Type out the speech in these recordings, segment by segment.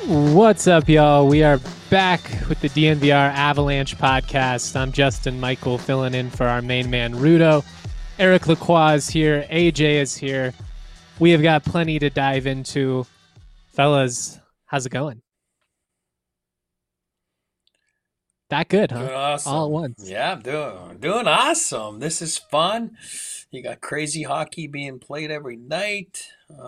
What's up, y'all? We are back with the DNVR Avalanche podcast. I'm Justin Michael, filling in for our main man, Rudo. Eric Lacroix is here. AJ is here. We have got plenty to dive into. Fellas, how's it going? That good, huh? Doing All at awesome. once. Yeah, I'm doing awesome. This is fun. You got crazy hockey being played every night.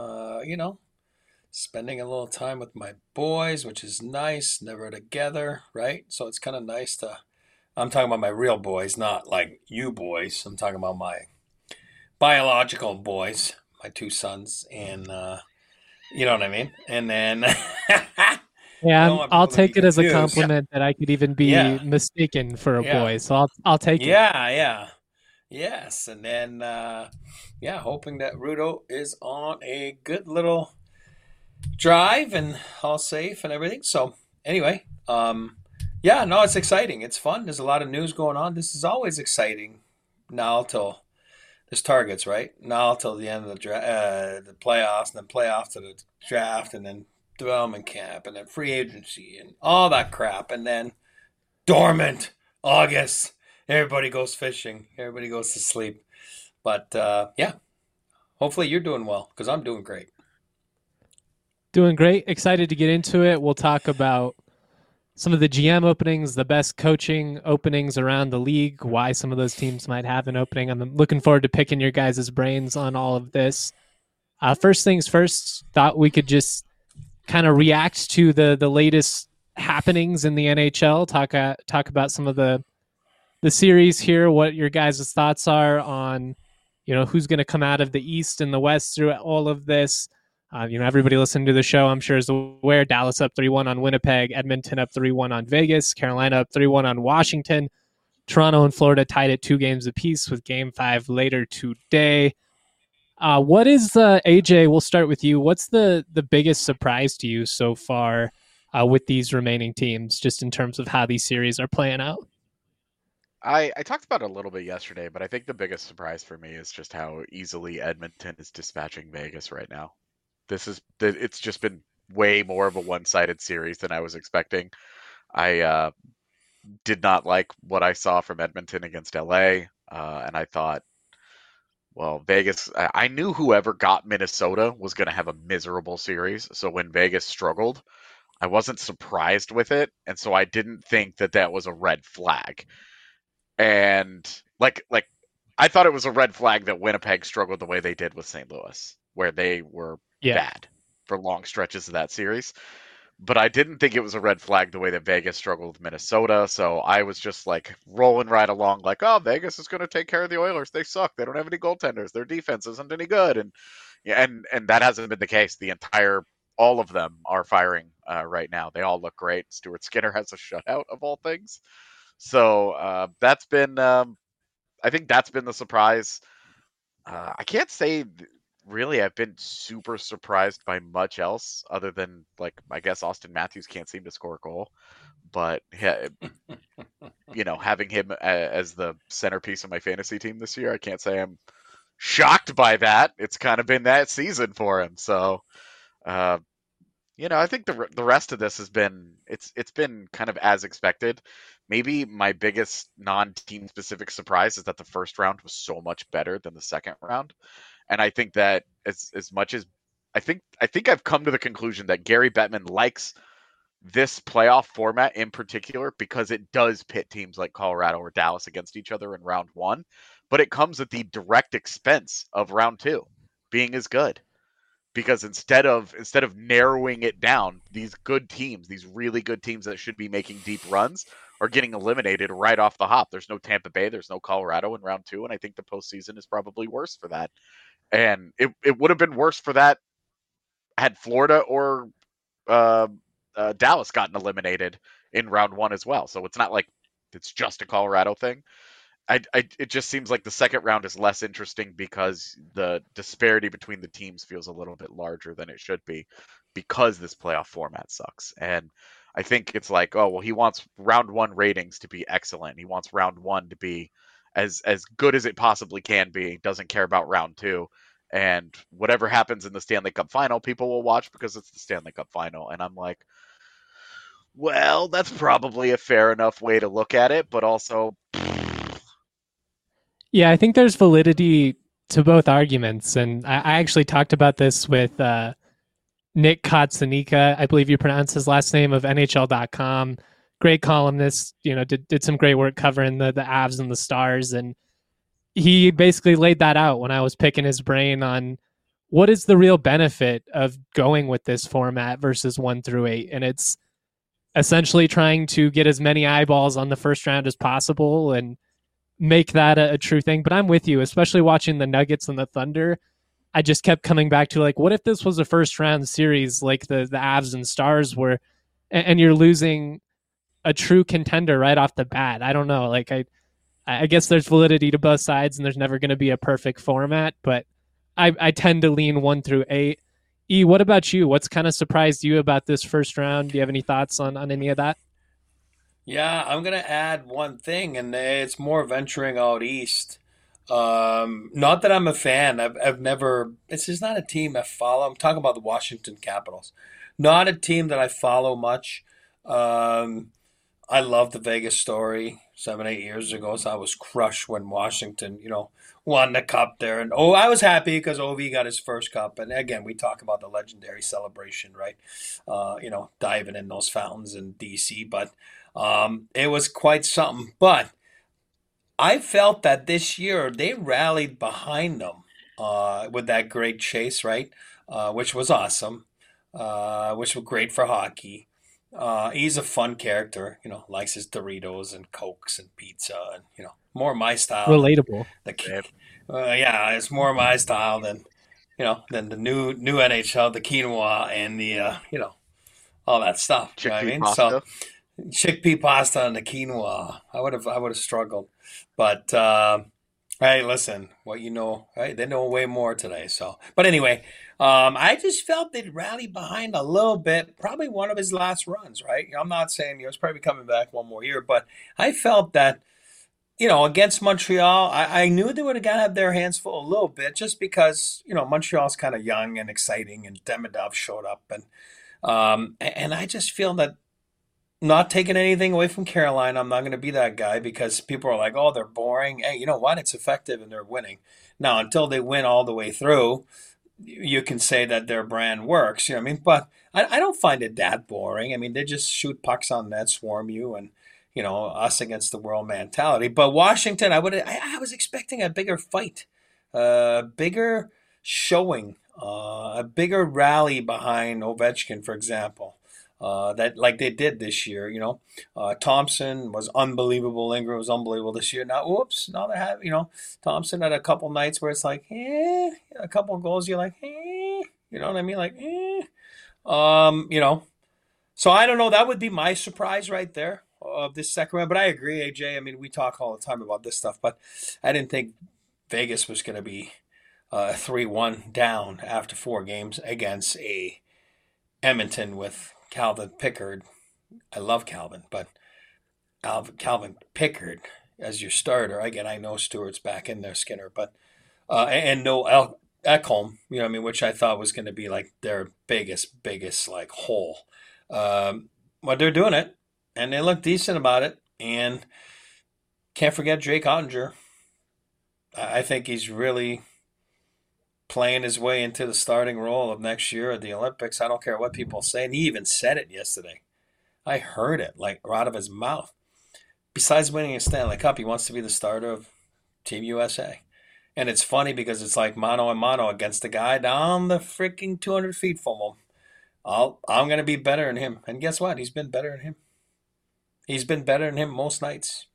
Spending a little time with my boys, which is nice. Never together, right? So it's kind of nice to. I'm talking about my real boys, not like you boys. I'm talking about my biological boys, my two sons, and you know what I mean. And then I Yeah, don't want I'll people to be take it as a confused. compliment that I could even be Yeah, mistaken for a yeah, boy. So I'll take it. yeah. Yes, and then hoping that Rudo is on a good little drive and all safe and everything. So anyway, no, it's exciting. It's fun. There's a lot of news going on. This is always exciting. Now till there's targets, right? Now till the end of the playoffs, and then playoffs to the draft, and then development camp, and then free agency, and all that crap, and then dormant August. Everybody goes fishing. Everybody goes to sleep. But hopefully you're doing well because I'm doing great. Doing great. Excited to get into it. We'll talk about some of the GM openings, the best coaching openings around the league, why some of those teams might have an opening. I'm looking forward to picking your guys' brains on all of this. First things first, thought we could just kind of react to the latest happenings in the NHL. Talk about some of the series here. What your guys' thoughts are on, who's going to come out of the East and the West through all of this. Everybody listening to the show, I'm sure, is aware Dallas up 3-1 on Winnipeg, Edmonton up 3-1 on Vegas, Carolina up 3-1 on Washington, Toronto and Florida tied at 2 games apiece with Game 5 later today. What is AJ? We'll start with you. What's the biggest surprise to you so far with these remaining teams, just in terms of how these series are playing out? I talked about it a little bit yesterday, but I think the biggest surprise for me is just how easily Edmonton is dispatching Vegas right now. It's just been way more of a one-sided series than I was expecting. I did not like what I saw from Edmonton against LA, and I thought, well, Vegas. I knew whoever got Minnesota was going to have a miserable series. So when Vegas struggled, I wasn't surprised with it, and so I didn't think that that was a red flag. And like I thought it was a red flag that Winnipeg struggled the way they did with St. Louis, where they were Yeah. bad for long stretches of that series. But I didn't think it was a red flag the way that Vegas struggled with Minnesota. So I was just like rolling right along, like, oh, Vegas is going to take care of the Oilers. They suck. They don't have any goaltenders. Their defense isn't any good. And yeah, and that hasn't been the case. All of them are firing right now. They all look great. Stuart Skinner has a shutout of all things. So that's been, I think that's been the surprise. I can't say really I've been super surprised by much else other than, like, I guess Austin Matthews can't seem to score a goal. But having him as the centerpiece of my fantasy team this year, I can't say I'm shocked by that. It's kind of been that season for him. So, uh, I think the rest of this has been it's been kind of as expected. Maybe my biggest non-team specific surprise is that the first round was so much better than the second round. And I think that as much as I think I've come to the conclusion that Gary Bettman likes this playoff format in particular because it does pit teams like Colorado or Dallas against each other in round 1, but it comes at the direct expense of round 2 being as good, because instead of narrowing it down, these good teams, these really good teams that should be making deep runs, are getting eliminated right off the hop. There's no Tampa Bay, there's no Colorado in round 2, and I think the postseason is probably worse for that. And it would have been worse for that had Florida or uh, Dallas gotten eliminated in round 1 as well. So it's not like it's just a Colorado thing. It just seems like the second round is less interesting because the disparity between the teams feels a little bit larger than it should be because this playoff format sucks. And I think it's like, oh, well, he wants round 1 ratings to be excellent. He wants round 1 to be as good as it possibly can be. Doesn't care about round 2. and whatever happens in the Stanley Cup final, people will watch because it's the Stanley Cup final. And I'm like, well, that's probably a fair enough way to look at it, but also, Yeah, I think there's validity to both arguments. And I actually talked about this with Nick Kotsanika, I believe you pronounce his last name, of NHL.com. Great columnist, did some great work covering the Avs and the Stars. And he basically laid that out when I was picking his brain on what is the real benefit of going with this format versus 1-8. And it's essentially trying to get as many eyeballs on the first round as possible and make that a true thing. But I'm with you, especially watching the Nuggets and the Thunder. I just kept coming back to, like, what if this was a first round series like the Avs and Stars were, and you're losing a true contender right off the bat? I don't know. Like, I guess there's validity to both sides, and there's never going to be a perfect format, but I tend to lean 1-8. E, what about you? What's kind of surprised you about this first round? Do you have any thoughts on any of that? Yeah, I'm going to add one thing, and it's more venturing out east. Not that I'm a fan. I've never. It's just not a team I follow. I'm talking about the Washington Capitals. Not a team that I follow much. I love the Vegas story 7-8 years ago. So I was crushed when Washington, won the cup there. And I was happy because Ovi got his first cup. And again, we talk about the legendary celebration, right? Diving in those fountains in DC. But it was quite something. But I felt that this year they rallied behind them with that great chase, right? Which was awesome, which was great for hockey. He's a fun character, likes his Doritos and Cokes and pizza, and more my style. Relatable. Yeah, it's more my style than the new NHL, the quinoa and the all that stuff. You know what I mean? Pasta. So chickpea pasta and the quinoa. I would have struggled, but hey, listen, right? They know way more today. So, but anyway, I just felt they'd rally behind a little bit. Probably one of his last runs, right? I'm not saying he was probably coming back one more year, but I felt that against Montreal, I knew they would have got to have their hands full a little bit, just because Montreal's kind of young and exciting, and Demidov showed up, and I just feel that. Not taking anything away from Carolina, I'm not going to be that guy, because people are like, oh, they're boring. Hey, you know what? It's effective and they're winning. Now, until they win all the way through, you can say that their brand works. You know what I mean? But I don't find it that boring. I mean, they just shoot pucks on net, swarm you, and, us against the world mentality. But Washington, I was expecting a bigger fight, a bigger showing, a bigger rally behind Ovechkin, for example. That like they did this year, Thompson was unbelievable. Ingram was unbelievable this year. Now they have, Thompson had a couple nights where it's like, a couple of goals. You're like, you know what I mean? Like, So I don't know. That would be my surprise right there of this second round. But I agree, AJ. I mean, we talk all the time about this stuff, but I didn't think Vegas was going to be 3-1 down after 4 games against a Edmonton with Calvin Pickard. I love Calvin, but Calvin Pickard as your starter. Again, I know Stewart's back in there, Skinner, but and no Ekholm, which I thought was going to be like their biggest like hole. But they're doing it, and they look decent about it. And can't forget Jake Ottinger. I think he's really playing his way into the starting role of next year at the Olympics. I don't care what people say. And he even said it yesterday. I heard it like out of his mouth. Besides winning a Stanley Cup, he wants to be the starter of Team USA. And it's funny because it's like mano a mano against the guy down the freaking 200 feet from him. I'm going to be better than him. And guess what? He's been better than him. He's been better than him most nights.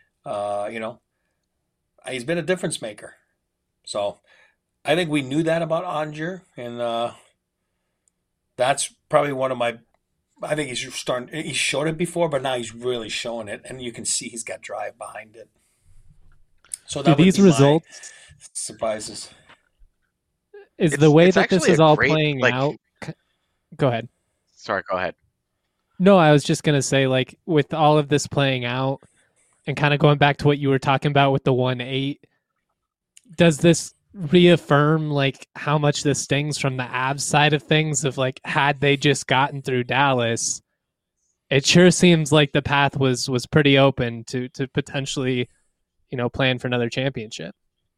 He's been a difference maker. So I think we knew that about Ottinger, and that's probably one of my. I think he's starting. He showed it before, but now he's really showing it, and you can see he's got drive behind it. So that these results surprises. Is the way that this is all playing out? Go ahead. Sorry, go ahead. No, I was just gonna say, like, with all of this playing out, and kind of going back to what you were talking about with the 1-8, does this reaffirm like how much this stings from the Avs side of things. Of like, had they just gotten through Dallas, it sure seems like the path was pretty open to potentially, plan for another championship.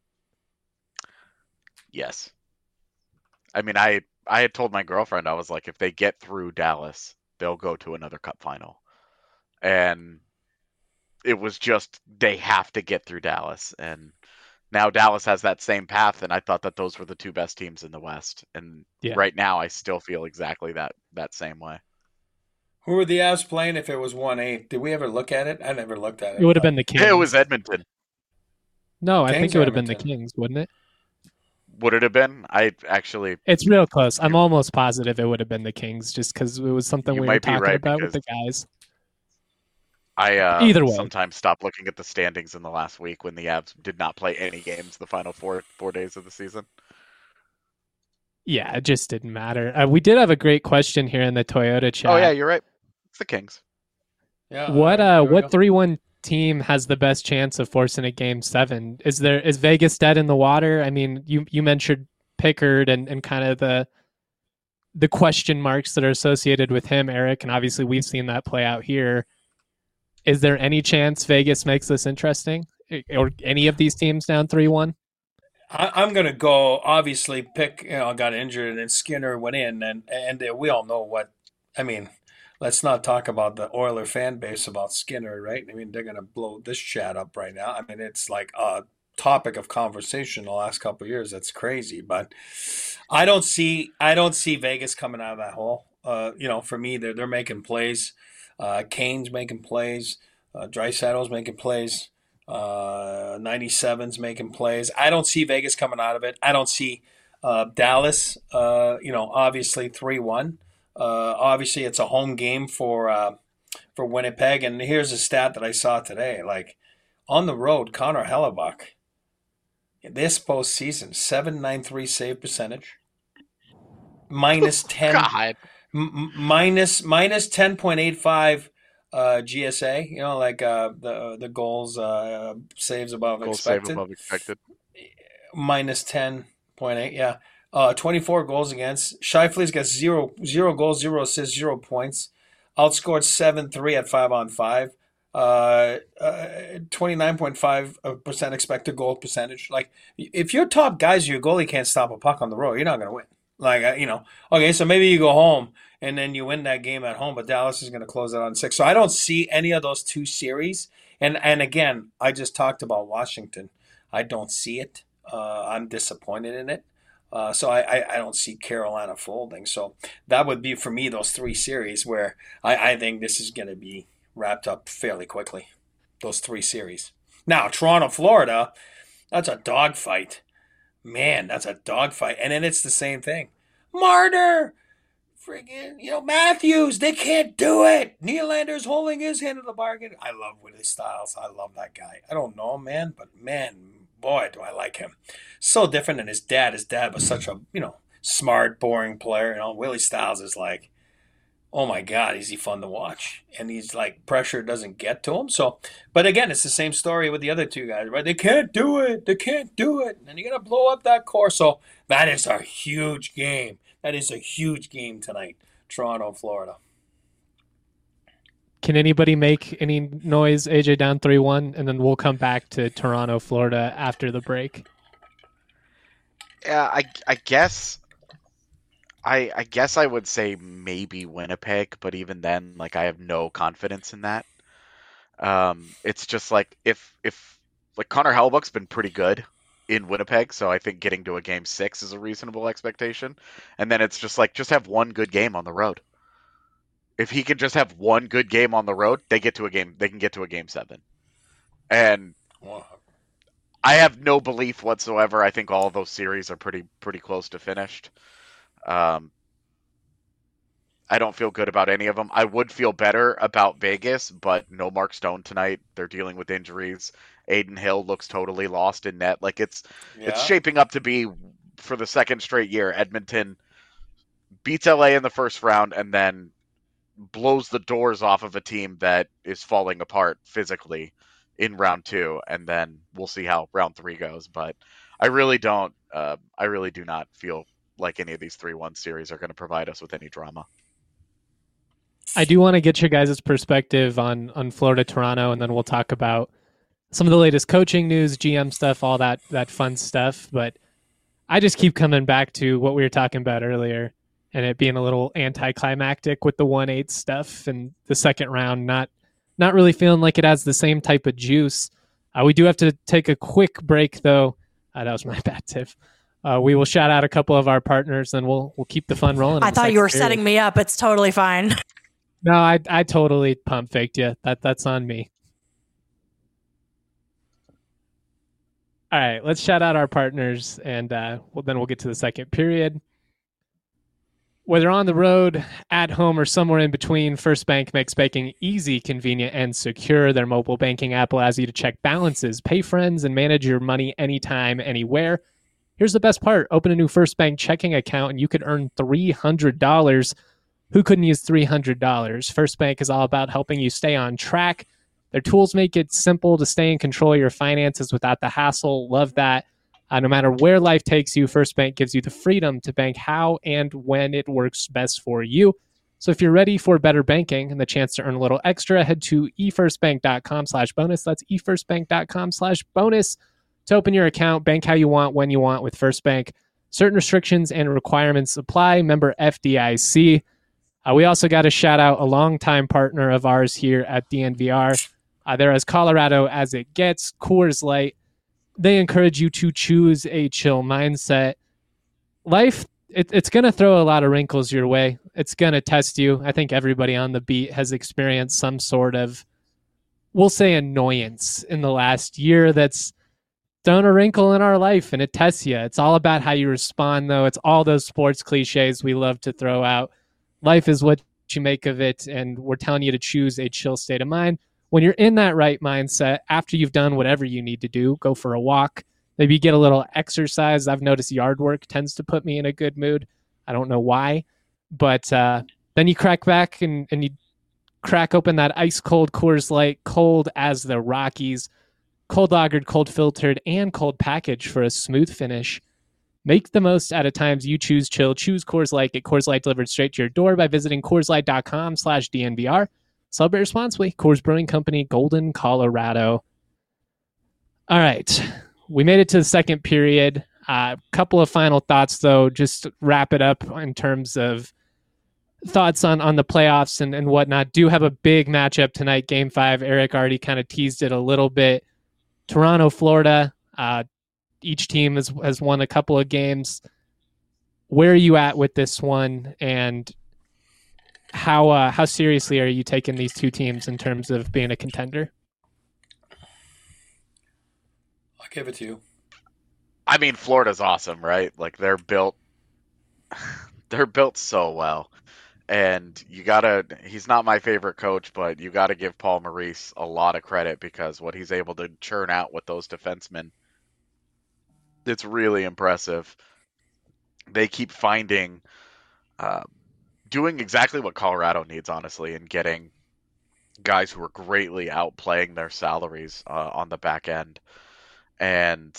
Yes. I mean, I had told my girlfriend, I was like, if they get through Dallas, they'll go to another cup final. And it was just, they have to get through Dallas. And now Dallas has that same path, and I thought that those were the two best teams in the West. And right now, I still feel exactly that same way. Who were the Avs playing if it was 1-8? Did we ever look at it? I never looked at it. It would have been the Kings. It was Edmonton. No, Kings, I think it would have been the Kings, wouldn't it? Would it have been? It's real close. I'm almost positive it would have been the Kings, just because it was something we were talking about with the guys. Either way, sometimes stop looking at the standings in the last week when the Avs did not play any games the final four days of the season. Yeah, it just didn't matter. We did have a great question here in the Toyota chat. Oh yeah, you're right. It's the Kings. Yeah. What 3-1 team has the best chance of forcing a Game 7? Is Vegas dead in the water? I mean, you mentioned Pickard and kind of the question marks that are associated with him, Eric, and obviously we've seen that play out here. Is there any chance Vegas makes this interesting, or any of these teams down 3-1? I'm going to go, obviously, Pick got injured and Skinner went in, and we all know what, I mean, let's not talk about the Oiler fan base about Skinner, right? I mean, they're going to blow this chat up right now. I mean, it's like a topic of conversation the last couple of years. That's crazy, but I don't see Vegas coming out of that hole. For me, they're making plays. Kane's making plays. Draisaitl's making plays. 97's making plays. I don't see Vegas coming out of it. I don't see Dallas. Obviously 3-1. Obviously, it's a home game for Winnipeg. And here's a stat that I saw today. Like on the road, Connor Hellebuyck, this postseason, .793 save percentage, minus 10. God. Minus 10.85 GSA, the goals saves above expected. Save above expected. Minus 10.8, yeah. 24 goals against. Scheifele's got zero goals, 0 assists, 0 points. Outscored 7-3 at 5-on-5. 29.5% expected goal percentage. Like, if your top guys, your goalie can't stop a puck on the road, you're not going to win. Like, okay, so maybe you go home and then you win that game at home, but Dallas is going to close it on 6. So I don't see any of those two series. And again, I just talked about Washington. I don't see it. I'm disappointed in it. So I don't see Carolina folding. So that would be, for me, those 3 series where I think this is going to be wrapped up fairly quickly. Those 3 series. Now, Toronto, Florida, that's a dogfight. Man, that's a dogfight. And then it's the same thing. Marner, friggin', Matthews, they can't do it. Nylander's holding his hand in the bargain. I love Willie Styles. I love that guy. I don't know him, man, but man, boy, do I like him. So different than his dad. His dad was such a, smart, boring player. Willie Styles is like, oh my God, is he fun to watch. And he's like, pressure doesn't get to him. So, but again, it's the same story with the other 2 guys, right? They can't do it. They can't do it. And you're going to blow up that core. So that is a huge game. That is a huge game tonight. Toronto, Florida. Can anybody make any noise? AJ down 3-1, and then we'll come back to Toronto, Florida after the break. Yeah, I guess I guess I would say maybe Winnipeg, but even then, like, I have no confidence in that. It's just like if like Connor Hellebuyck's been pretty good in Winnipeg, so I think getting to a Game 6 is a reasonable expectation. And then it's just like, just have one good game on the road. If he can just have one good game on the road, they can get to a Game 7. And I have no belief whatsoever. I think all of those series are pretty close to finished. I don't feel good about any of them. I would feel better about Vegas, but no Mark Stone tonight. They're dealing with injuries. Aiden Hill looks totally lost in net. Like, it's shaping up to be, for the second straight year, Edmonton beats LA in the first round and then blows the doors off of a team that is falling apart physically in round 2, and then we'll see how round 3 goes. But I really don't I really do not feel like any of these 3-1 series are going to provide us with any drama. I do want to get your guys' perspective on Florida Toronto, and then we'll talk about some of the latest coaching news, GM stuff, all that fun stuff. But I just keep coming back to what we were talking about earlier, and it being a little anticlimactic with the 1-8 stuff and the second round not really feeling like it has the same type of juice. We do have to take a quick break, though. That was my bad, Tiff. We will shout out a couple of our partners, and we'll keep the fun rolling. I thought you were setting me up. It's totally fine. No, I totally pump faked you. That's on me. All right, let's shout out our partners, and then we'll get to the second period. Whether on the road, at home, or somewhere in between, First Bank makes banking easy, convenient, and secure. Their mobile banking app allows you to check balances, pay friends, and manage your money anytime, anywhere. Here's the best part. Open a new First Bank checking account, and you could earn $300. Who couldn't use $300? First Bank is all about helping you stay on track. Their tools make it simple to stay in control of your finances without the hassle. Love that. No matter where life takes you, First Bank gives you the freedom to bank how and when it works best for you. So if you're ready for better banking and the chance to earn a little extra, head to efirstbank.com/bonus. That's efirstbank.com/bonus to open your account. Bank how you want, when you want with First Bank. Certain restrictions and requirements apply. Member FDIC. We also got to shout out a longtime partner of ours here at DNVR. They're as Colorado as it gets, Coors Light. They encourage you to choose a chill mindset. Life, it's going to throw a lot of wrinkles your way. It's going to test you. I think everybody on the beat has experienced some sort of, we'll say, annoyance in the last year that's thrown a wrinkle in our life, and it tests you. It's all about how you respond, though. It's all those sports cliches we love to throw out. Life is what you make of it, and we're telling you to choose a chill state of mind. When you're in that right mindset, after you've done whatever you need to do, go for a walk, maybe get a little exercise. I've noticed yard work tends to put me in a good mood. I don't know why, but then you crack back and you crack open that ice-cold Coors Light, cold as the Rockies, cold lagered, cold filtered, and cold packaged for a smooth finish. Make the most out of times you choose chill. Choose Coors Light. Get Coors Light delivered straight to your door by visiting CoorsLight.com/DNVR. Celebrate responsibly. Coors Brewing Company, Golden, Colorado. All right. We made it to the second period. A couple of final thoughts, though. Just wrap it up in terms of thoughts on the playoffs and whatnot. Do have a big matchup tonight, Game 5. Eric already kind of teased it a little bit. Toronto, Florida. Each team has won a couple of games. Where are you at with this one, and how seriously are you taking these two teams in terms of being a contender? I'll give it to you. I mean, Florida's awesome, right? Like they're built so well. And he's not my favorite coach, but you gotta give Paul Maurice a lot of credit because what he's able to churn out with those defensemen, it's really impressive. They keep finding, doing exactly what Colorado needs, honestly, and getting guys who are greatly outplaying their salaries on the back end, and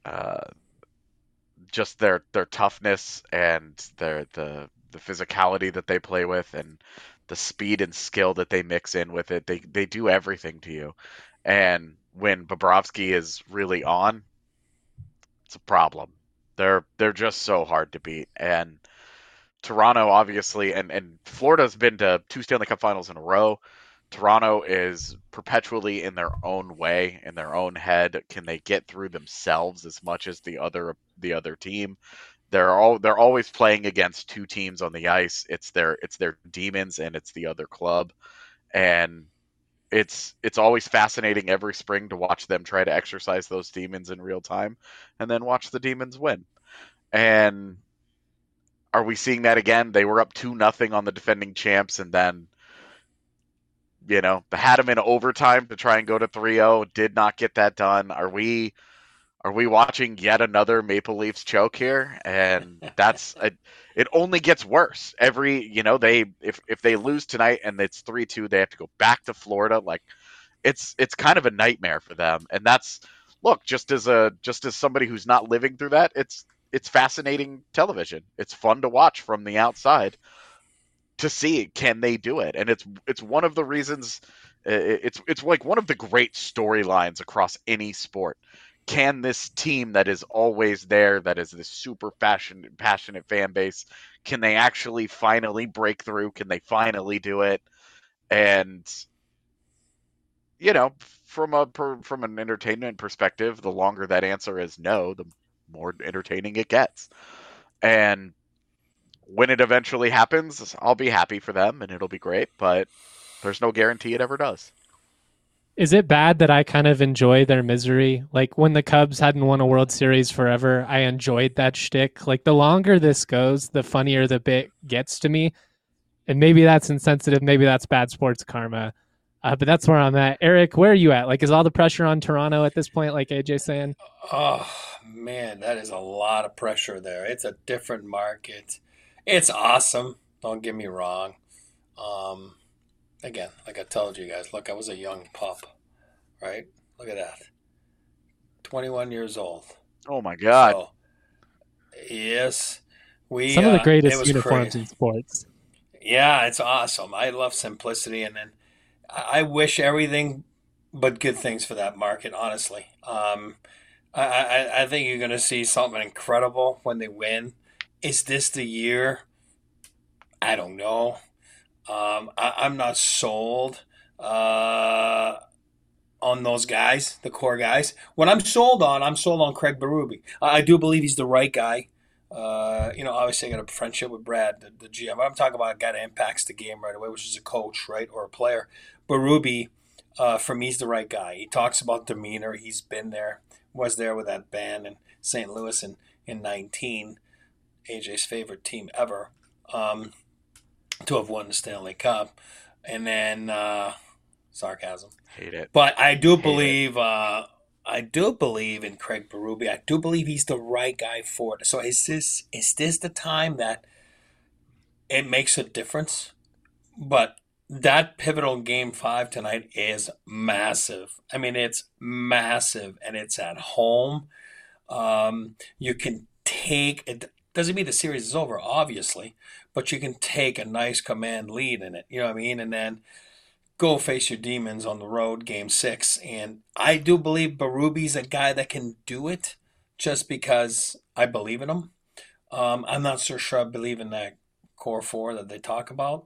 just their toughness and the physicality that they play with, and the speed and skill that they mix in with it. They do everything to you, and when Bobrovsky is really on, it's a problem. They're just so hard to beat. And Toronto, obviously, and Florida's been to 2 Stanley Cup Finals in a row. Toronto is perpetually in their own way, in their own head. Can they get through themselves as much as the other team? They're always playing against two teams on the ice. It's their demons and it's the other club, and it's always fascinating every spring to watch them try to exercise those demons in real time and then watch the demons win. And are we seeing that again? They were up 2-0 on the defending champs, and then, they had them in overtime to try and go to 3-0, did not get that done. Are we watching yet another Maple Leafs choke here? And it only gets worse. If they lose tonight and it's 3-2, they have to go back to Florida. Like it's kind of a nightmare for them. And that's, look, just as somebody who's not living through that, it's it's fascinating television. It's fun to watch from the outside to see, can they do it? And it's one of the reasons, it's like one of the great storylines across any sport. Can this team that is always there, that is this super passionate fan base, can they actually finally break through? Can they finally do it? And from an entertainment perspective, the longer that answer is no, the more entertaining it gets. And when it eventually happens, I'll be happy for them and it'll be great, but there's no guarantee it ever does. Is it bad that I kind of enjoy their misery? Like when the Cubs hadn't won a World Series forever, I enjoyed that shtick. Like the longer this goes, the funnier the bit gets to me. And maybe that's insensitive. Maybe that's bad sports karma. But that's where I'm at. Eric, where are you at? Like, is all the pressure on Toronto at this point, like AJ's saying? Oh, man, that is a lot of pressure there. It's a different market. It's awesome. Don't get me wrong. Again, like I told you guys, look, I was a young pup, right? Look at that. 21 years old. Oh, my God. So, yes. Some of the greatest uniforms in sports. Yeah, it's awesome. I love simplicity, and then I wish everything but good things for that market, honestly. I think you're going to see something incredible when they win. Is this the year? I don't know. I'm not sold on those guys, the core guys. What I'm sold on Craig Berube. I do believe he's the right guy. Obviously I got a friendship with Brad, the GM. But I'm talking about a guy that impacts the game right away, which is a coach, right, or a player. Berube, for me, he's the right guy. He talks about demeanor. He's been there, was there with that band in St. Louis in 19, AJ's favorite team ever, to have won the Stanley Cup. And then, sarcasm. Hate it. But I do believe in Craig Berube. I do believe he's the right guy for it. So is this the time that it makes a difference? But that pivotal Game 5 tonight is massive. I mean, it's massive, and it's at home. You can take it. Doesn't mean the series is over, obviously, but you can take a nice command lead in it. You know what I mean? And then go face your demons on the road, Game 6. And I do believe Berube's a guy that can do it just because I believe in him. I'm not so sure I believe in that core four that they talk about,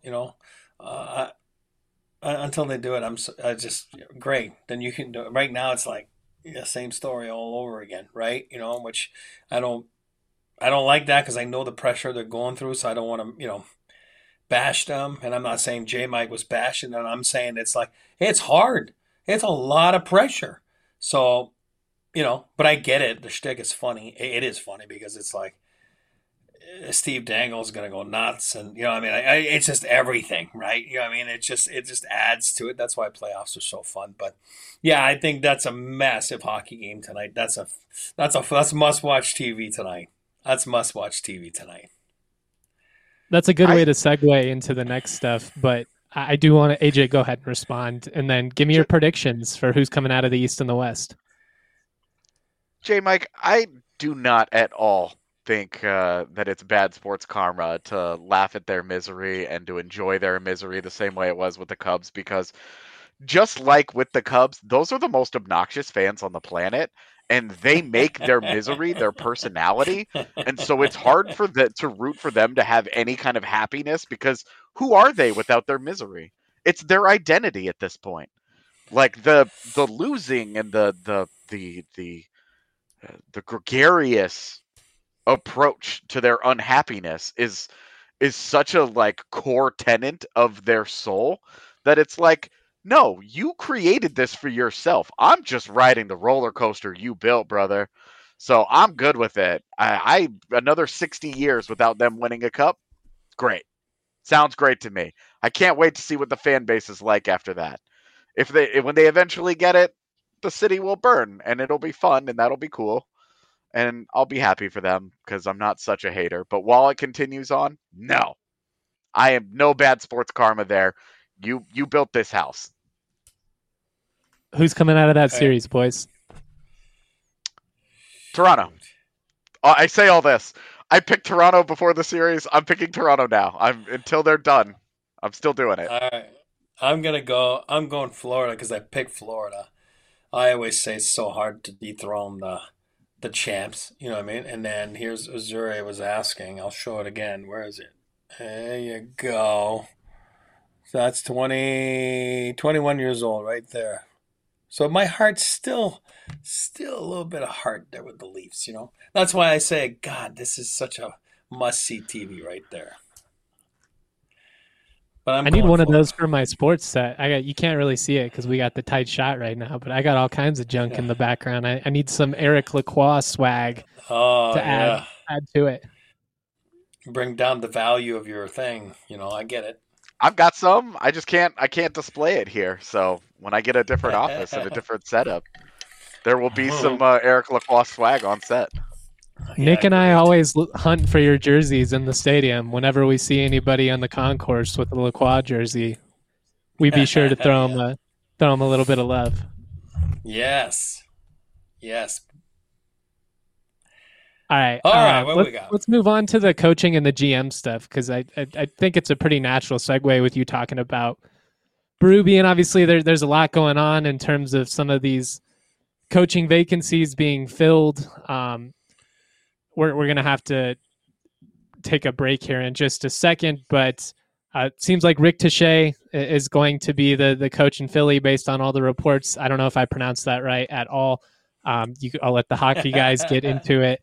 until they do it, I just great. Then you can do it. Right now it's like same story all over again, right? Which I don't like that because I know the pressure they're going through, so I don't want to, bash them. And I'm not saying J Mike was bashing them. I'm saying it's like, it's hard. It's a lot of pressure. So, but I get it. The shtick is funny. It is funny because it's like Steve Dangle's going to go nuts. And, it's just everything, right? It just adds to it. That's why playoffs are so fun. But yeah, I think that's a massive hockey game tonight. That's must-watch TV tonight. That's must-watch TV tonight. That's a good way to segue into the next stuff, but I do want to, AJ, go ahead and respond, and then give me your predictions for who's coming out of the East and the West. J. Mike, I do not at all think that it's bad sports karma to laugh at their misery and to enjoy their misery the same way it was with the Cubs, because just like with the Cubs, those are the most obnoxious fans on the planet. And they make their misery their personality. And so it's hard to root for them to have any kind of happiness, because who are they without their misery? It's their identity at this point. Like the losing and the gregarious approach to their unhappiness is such a core tenet of their soul that it's like, no, you created this for yourself. I'm just riding the roller coaster you built, brother. So I'm good with it. I another 60 years without them winning a cup. Great. Sounds great to me. I can't wait to see what the fan base is like after that. When they eventually get it, the city will burn and it'll be fun and that'll be cool. And I'll be happy for them because I'm not such a hater. But while it continues on, no. I am no bad sports karma there. You built this house. Who's coming out of that series, boys? Toronto. I say all this. I picked Toronto before the series. I'm picking Toronto now. Until they're done. I'm still doing it. All right. I'm going Florida because I picked Florida. I always say it's so hard to dethrone the champs. You know what I mean? And then here's Missouri was asking. I'll show it again. Where is it? There you go. So that's 21 years old right there. So my heart's still a little bit of heart there with the Leafs, you know. That's why I say, God, this is such a must-see TV right there. But I need one of those for my sports set. You can't really see it because we got the tight shot right now, but I got all kinds of junk in the background. I need some Eric Lacroix swag to add to it. Bring down the value of your thing. You know, I get it. I've got some. I can't display it here. So when I get a different office and a different setup, there will be some Eric Lacroix swag on set. Nick and I always hunt for your jerseys in the stadium. Whenever we see anybody on the concourse with a Lacroix jersey, we be sure to throw them a little bit of love. Yes. All right. What we got? Let's move on to the coaching and the GM stuff because I think it's a pretty natural segue with you talking about Berube, and obviously there's a lot going on in terms of some of these coaching vacancies being filled. We're going to have to take a break here in just a second, but it seems like Rick Touche is going to be the coach in Philly based on all the reports. I don't know if I pronounced that right at all. I'll let the hockey guys get into it.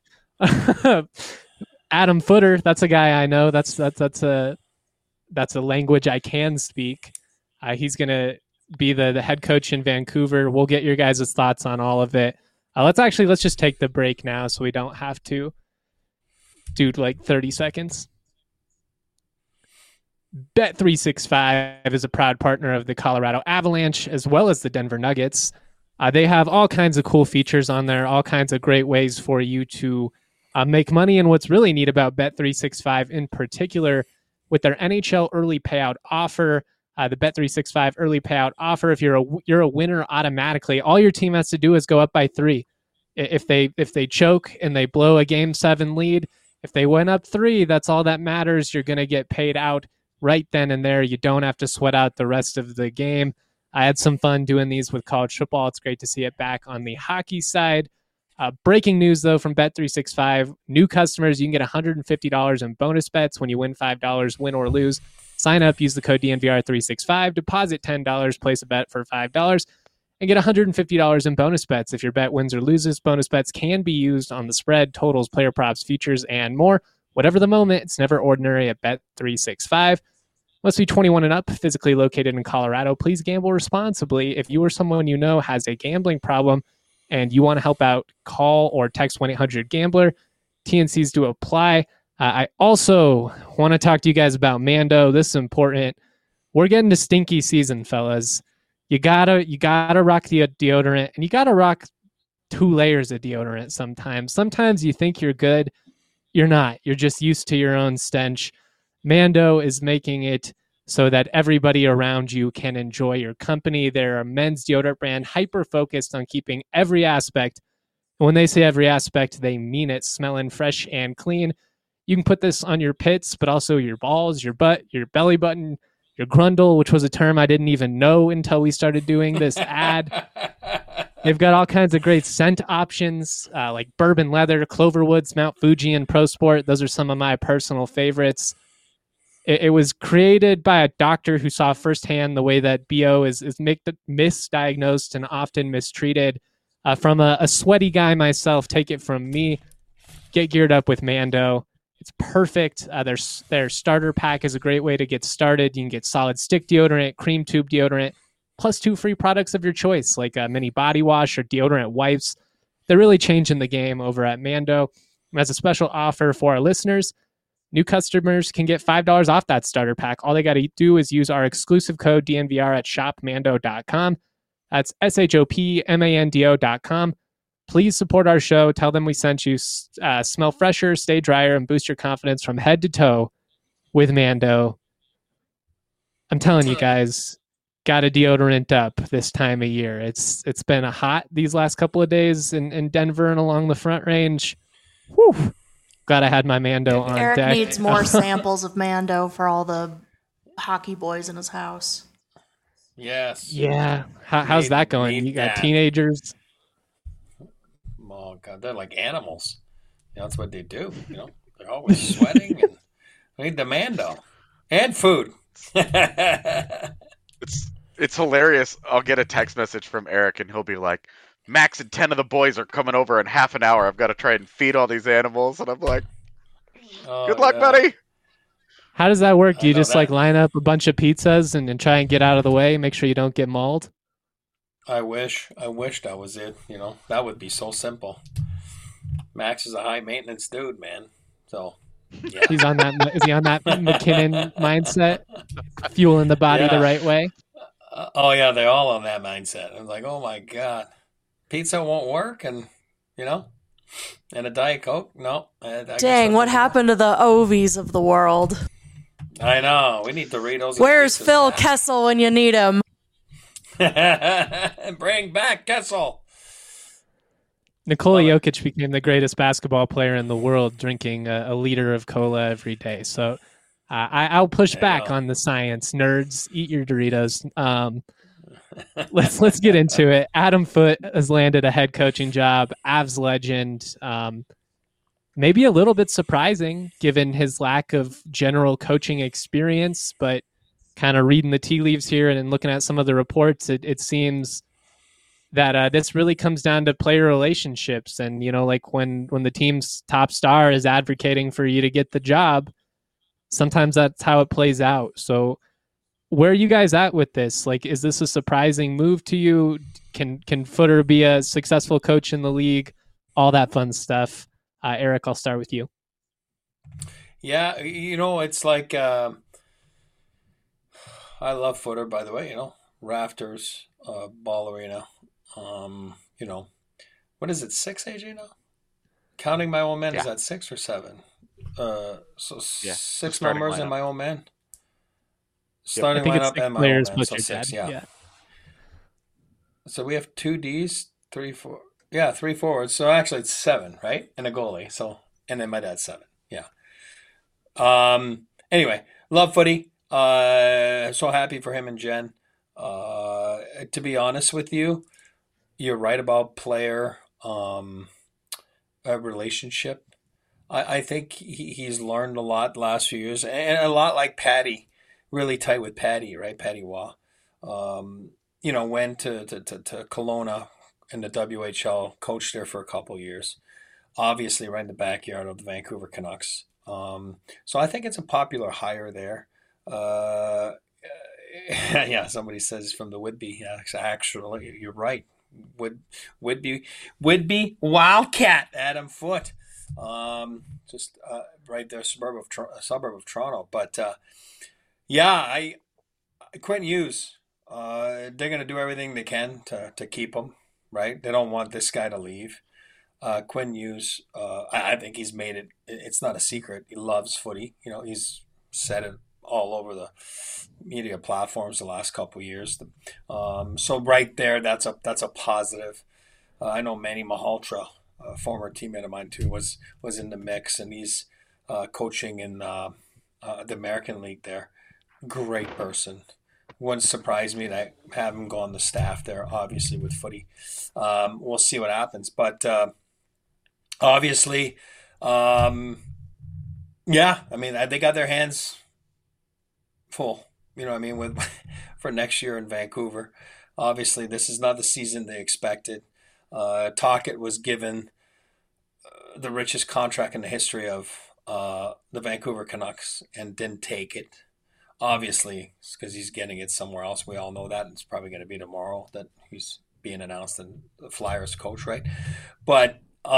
Adam Footer, that's a guy I know. That's a language I can speak. He's going to be the head coach in Vancouver. We'll get your guys' thoughts on all of it. Let's just take the break now so we don't have to do like 30 seconds. Bet365 is a proud partner of the Colorado Avalanche as well as the Denver Nuggets. They have all kinds of cool features on there, all kinds of great ways for you to make money. And what's really neat about Bet365 in particular with their NHL early payout offer, the Bet365 early payout offer, if you're a winner automatically, all your team has to do is go up by 3. If they choke and they blow a Game 7 lead, if they went up 3, that's all that matters. You're going to get paid out right then and there. You don't have to sweat out the rest of the game. I had some fun doing these with college football. It's great to see it back on the hockey side. Breaking news, though, from Bet365. New customers, you can get $150 in bonus bets when you win $5, win or lose. Sign up, use the code DNVR365, deposit $10, place a bet for $5, and get $150 in bonus bets. If your bet wins or loses, bonus bets can be used on the spread, totals, player props, futures, and more. Whatever the moment, it's never ordinary at Bet365. Must be 21 and up, physically located in Colorado. Please gamble responsibly. If you or someone you know has a gambling problem and you want to help out, call or text 1-800-GAMBLER. TNCs do apply. I also want to talk to you guys about Mando. This is important. We're getting to stinky season, fellas. You gotta rock the deodorant, and you gotta rock 2 layers of deodorant sometimes. Sometimes you think you're good. You're not. You're just used to your own stench. Mando is making it so that everybody around you can enjoy your company. They're a men's deodorant brand hyper-focused on keeping every aspect. And when they say every aspect, they mean it, smelling fresh and clean. You can put this on your pits, but also your balls, your butt, your belly button, your grundle, which was a term I didn't even know until we started doing this ad. They've got all kinds of great scent options like bourbon leather, Cloverwoods, Mount Fuji, and Pro Sport. Those are some of my personal favorites. It was created by a doctor who saw firsthand the way that BO is misdiagnosed and often mistreated. From a sweaty guy myself, take it from me. Get geared up with Mando. It's perfect. Their starter pack is a great way to get started. You can get solid stick deodorant, cream tube deodorant, plus 2 free products of your choice, like a mini body wash or deodorant wipes. They're really changing the game over at Mando. And as a special offer for our listeners, new customers can get $5 off that starter pack. All they got to do is use our exclusive code DNVR at shopmando.com. That's shopmando.com. Please support our show. Tell them we sent you. Smell fresher, stay drier, and boost your confidence from head to toe with Mando. I'm telling you guys, got a deodorant up this time of year. It's been hot these last couple of days in Denver and along the Front Range. Whew. Glad I had my Mando on Eric deck. needs more samples of Mando for all the hockey boys in his house. Yes. Yeah. How's that going? Need You got that. teenagers? Oh God, they're like animals. That's what they do. They're always sweating, and we need the Mando and food. It's hilarious. I'll get a text message from Eric, and he'll be like, "Max and 10 of the boys are coming over in half an hour. I've got to try and feed all these animals." And I'm like, "Good luck, buddy." How does that work? Do you know just that. like line up a bunch of pizzas and try and get out of the way, make sure you don't get mauled? I wish that was it. That would be so simple. Max is a high maintenance dude, man. So yeah. He's on that. Is he on that McKinnon mindset, fueling the body the Yeah. right way? Oh yeah, they're all on that mindset. I'm like, oh my God, pizza won't work, and and a Diet Coke. No. I guess Dang, what that's- happened to the Ovies of the world? I know. We need Doritos. and Where's pizzas Phil back. Kessel when you need him? Bring back Kessel. Nikola Love it. Jokic became the greatest basketball player in the world, drinking a liter of cola every day. So I'll push There you back go. on the science. Nerds, eat your Doritos. Let's get into it. Adam Foote has landed a head coaching job. Avs legend. Maybe a little bit surprising given his lack of general coaching experience, but kind of reading the tea leaves here and looking at some of the reports, it seems that this really comes down to player relationships. And, like when the team's top star is advocating for you to get the job, sometimes that's how it plays out. So where are you guys at with this? Like, is this a surprising move to you? Can Footer be a successful coach in the league? All that fun stuff. Eric, I'll start with you. Yeah, it's like I love Footer, by the way. Rafters, Ball Arena. What is it? 6 AJ now? Counting my old man, is Yeah. that 6 or 7? So Yeah, six starting members in lineup. my old man. I Starting think it's lineup 6 and my players old man, plus so your 6. dad. Yeah. So we have 2 Ds, 3, 4. Yeah, 3 forwards. So actually, it's 7, right? And a goalie. So and then my dad's 7. Yeah. Anyway, love footy. So happy for him and Jen. To be honest with you, you're right about player relationship. I think he's learned a lot the last few years, and a lot like Patty, really tight with Patty, right? Patty Waugh. Went to Kelowna in the WHL, coached there for a couple years. Obviously, right in the backyard of the Vancouver Canucks. So I think it's a popular hire there. Yeah, somebody says from the Whitby. Yeah, actually, you're right. Whitby Wildcat, Adam Foote. Just right there, suburb of Toronto. But yeah, Quentin Hughes. They're going to do everything they can to keep him. Right? They don't want this guy to leave. Quentin Hughes, I think he's made it. It's not a secret. He loves footy. He's said it all over the media platforms the last couple of years. So right there, that's a positive. I know Manny Malhotra, a former teammate of mine too, was in the mix, and he's coaching in the American League there. Great person. Wouldn't surprise me to have him go on the staff there, obviously, with footy. We'll see what happens. But obviously, yeah, I mean, they got their hands full, with for next year in Vancouver. Obviously, this is not the season they expected. Tocchet was given the richest contract in the history of the Vancouver Canucks and didn't take it. Obviously, it's because he's getting it somewhere else. We all know that. It's probably going to be tomorrow that he's being announced and the Flyers coach, right? But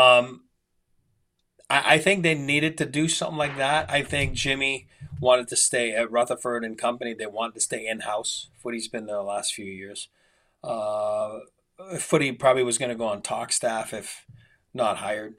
I think they needed to do something like that. I think Jimmy wanted to stay at Rutherford and Company. They wanted to stay in-house. Footy's been there the last few years. Footy probably was going to go on talk staff if not hired.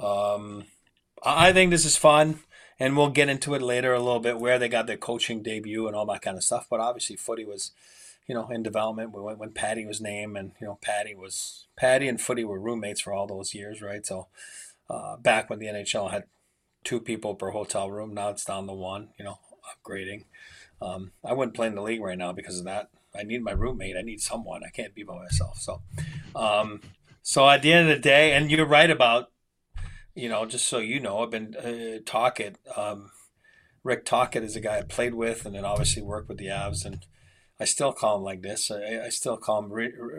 I think this is fun, and we'll get into it later a little bit where they got their coaching debut and all that kind of stuff. But obviously, Footy was, in development when Patty was named, and Patty and Footy were roommates for all those years, right? So back when the NHL had 2 people per hotel room. Now it's down to 1. Upgrading. I wouldn't play in the league right now because of that. I need my roommate. I need someone. I can't be by myself. So at the end of the day, and you're right about, just so you know, I've been Tocchet. Rick Tocchet is a guy I played with, and then obviously worked with the Avs, and I still call him like this. I still call him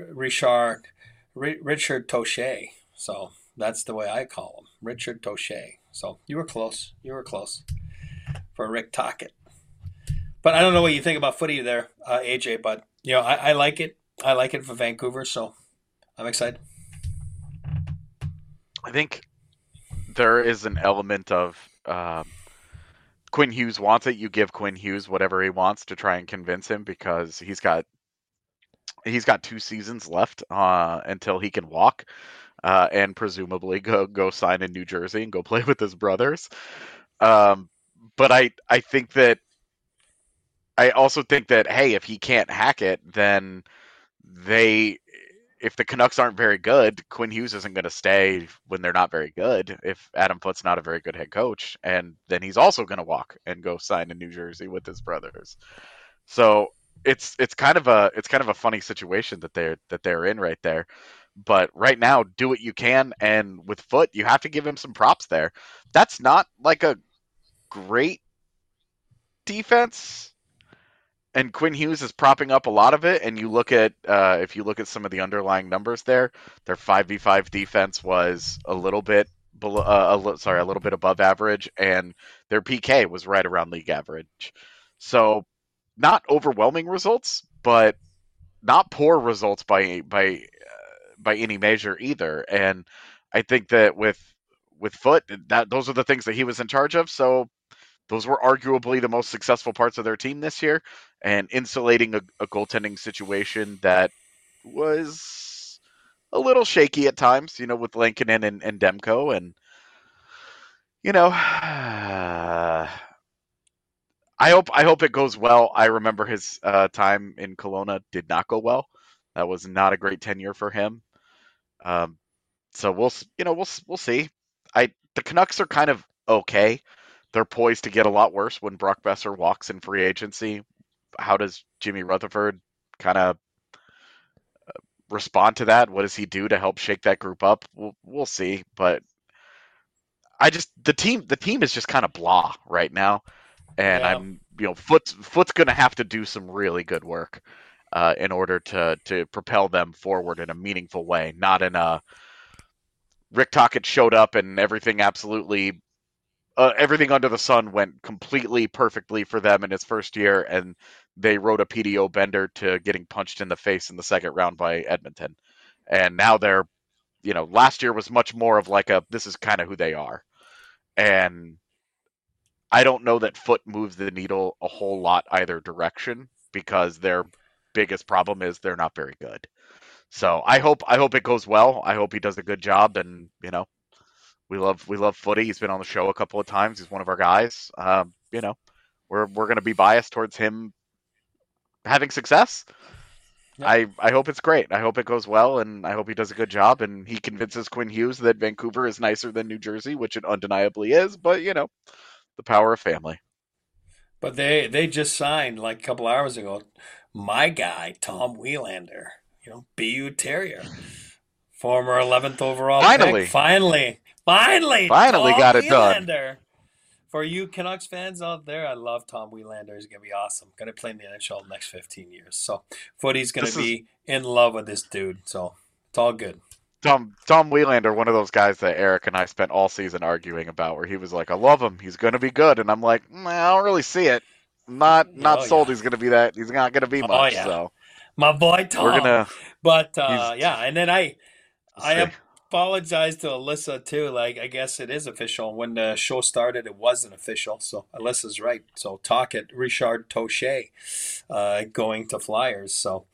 Richard Touche. So that's the way I call him, Richard Touche. So you were close. You were close for Rick Tocchet. But I don't know what you think about footy there, AJ. But I like it. I like it for Vancouver, so I'm excited. I think there is an element of Quinn Hughes wants it. You give Quinn Hughes whatever he wants to try and convince him, because he's got 2 seasons left until he can walk, and presumably go sign in New Jersey and go play with his brothers. But I think that I also think that, hey, if he can't hack it, then if the Canucks aren't very good, Quinn Hughes isn't going to stay when they're not very good. If Adam Foote's not a very good head coach, and then he's also going to walk and go sign in New Jersey with his brothers. So it's kind of a funny situation that they're in right there. But right now, do what you can, and with Foote, you have to give him some props there. That's not like a great defense, and Quinn Hughes is propping up a lot of it. And you look at if you look at some of the underlying numbers there, their 5v5 defense was a little bit below, a little bit above average, and their PK was right around league average. So not overwhelming results, but not poor results by any measure either. And I think that with Foote, those are the things that he was in charge of. So those were arguably the most successful parts of their team this year, and insulating a goaltending situation that was a little shaky at times, with Lankinen and Demko. And, I hope it goes well. I remember his time in Kelowna did not go well. That was not a great tenure for him. So we'll see. The Canucks are kind of okay. They're poised to get a lot worse when Brock Besser walks in free agency. How does Jimmy Rutherford kind of respond to that? What does he do to help shake that group up? We'll see. But the team is just kind of blah right now, and Yeah. I'm Foote's going to have to do some really good work in order to propel them forward in a meaningful way, not in a Rick Tocchet showed up and everything absolutely. Everything under the sun went completely perfectly for them in his first year, and they wrote a PDO bender to getting punched in the face in the second round by Edmonton. And now they're, last year was much more of like this is kind of who they are. And I don't know that Foote moves the needle a whole lot either direction, because their biggest problem is they're not very good. So I hope it goes well. I hope he does a good job, and, we love footy. He's been on the show a couple of times. He's one of our guys. We're going to be biased towards him having success. Yeah. I hope it's great. I hope it goes well, and I hope he does a good job, and he convinces Quinn Hughes that Vancouver is nicer than New Jersey, which it undeniably is. But the power of family. But they just signed like a couple hours ago my guy Tom Wielander, BU Terrier, former 11th overall pick. Finally Tom got it Wielander. done. For you Canucks fans out there, I love Tom Wielander. He's going to be awesome. Going to play in the NHL the next 15 years. So Footy's going to be in love with this dude. So it's all good. Tom Wielander, one of those guys that Eric and I spent all season arguing about, where he was like, I love him. He's going to be good. And I'm like, I don't really see it. Not sold. He's going to be that. He's not going to be much. Yeah. So my boy Tom. We're gonna. But yeah, and then I apologize to Alyssa too. Like, I guess it is official. When the show started, it wasn't official. So Alyssa's right. So Tocchet, Richard Touche, going to Flyers. So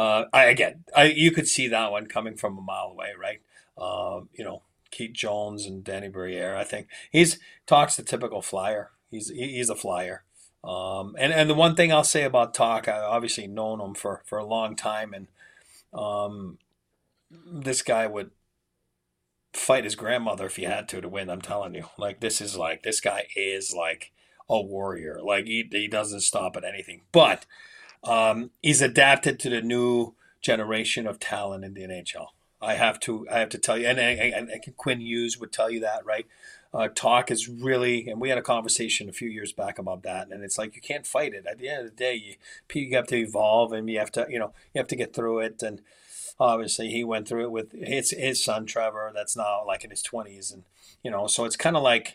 you could see that one coming from a mile away, right? Keith Jones and Danny Briere. I think Talk's the typical Flyer. He's a Flyer. And the one thing I'll say about Talk, I've obviously known him for a long time, and this guy would fight his grandmother if he had to win. I'm telling you, like this guy is like a warrior. Like he doesn't stop at anything. But he's adapted to the new generation of talent in the NHL. I have to tell you, and Quinn Hughes would tell you that, right? Talk is really, and we had a conversation a few years back about that, and it's like you can't fight it. At the end of the day, you have to evolve, and you have to, you have to get through it. And obviously, he went through it with his son Trevor, that's now like in his 20s, and so it's kind of like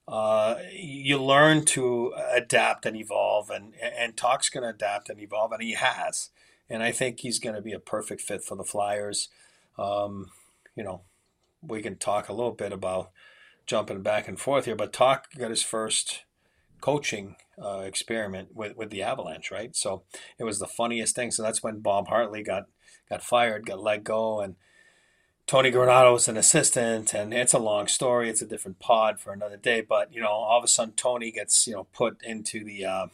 you learn to adapt and evolve, and Talk's going to adapt and evolve, and he has, and I think he's going to be a perfect fit for the Flyers. Um, you know, we can talk a little bit about jumping back and forth here, but Talk got his first coaching experiment with the Avalanche, right? So it was the funniest thing. So that's when Bob Hartley got fired, got let go, and Tony Granato was an assistant, and it's a long story. It's a different pod for another day. But all of a sudden, Tony gets put into the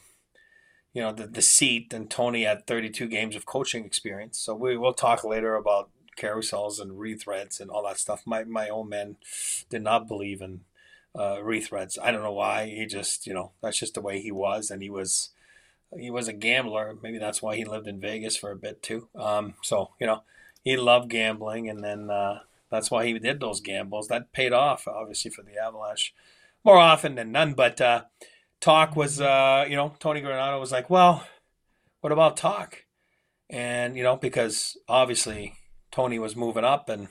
the seat, and Tony had 32 games of coaching experience. So we will talk later about carousels and rethreads and all that stuff. My old man did not believe in rethreads. I don't know why. He just that's just the way he was, and he was a gambler. Maybe that's why he lived in Vegas for a bit too. So he loved gambling, and then that's why he did those gambles. That paid off, obviously, for the Avalanche more often than none. But Talk was, Tony Granato was like, well, what about Talk? And, because obviously Tony was moving up, and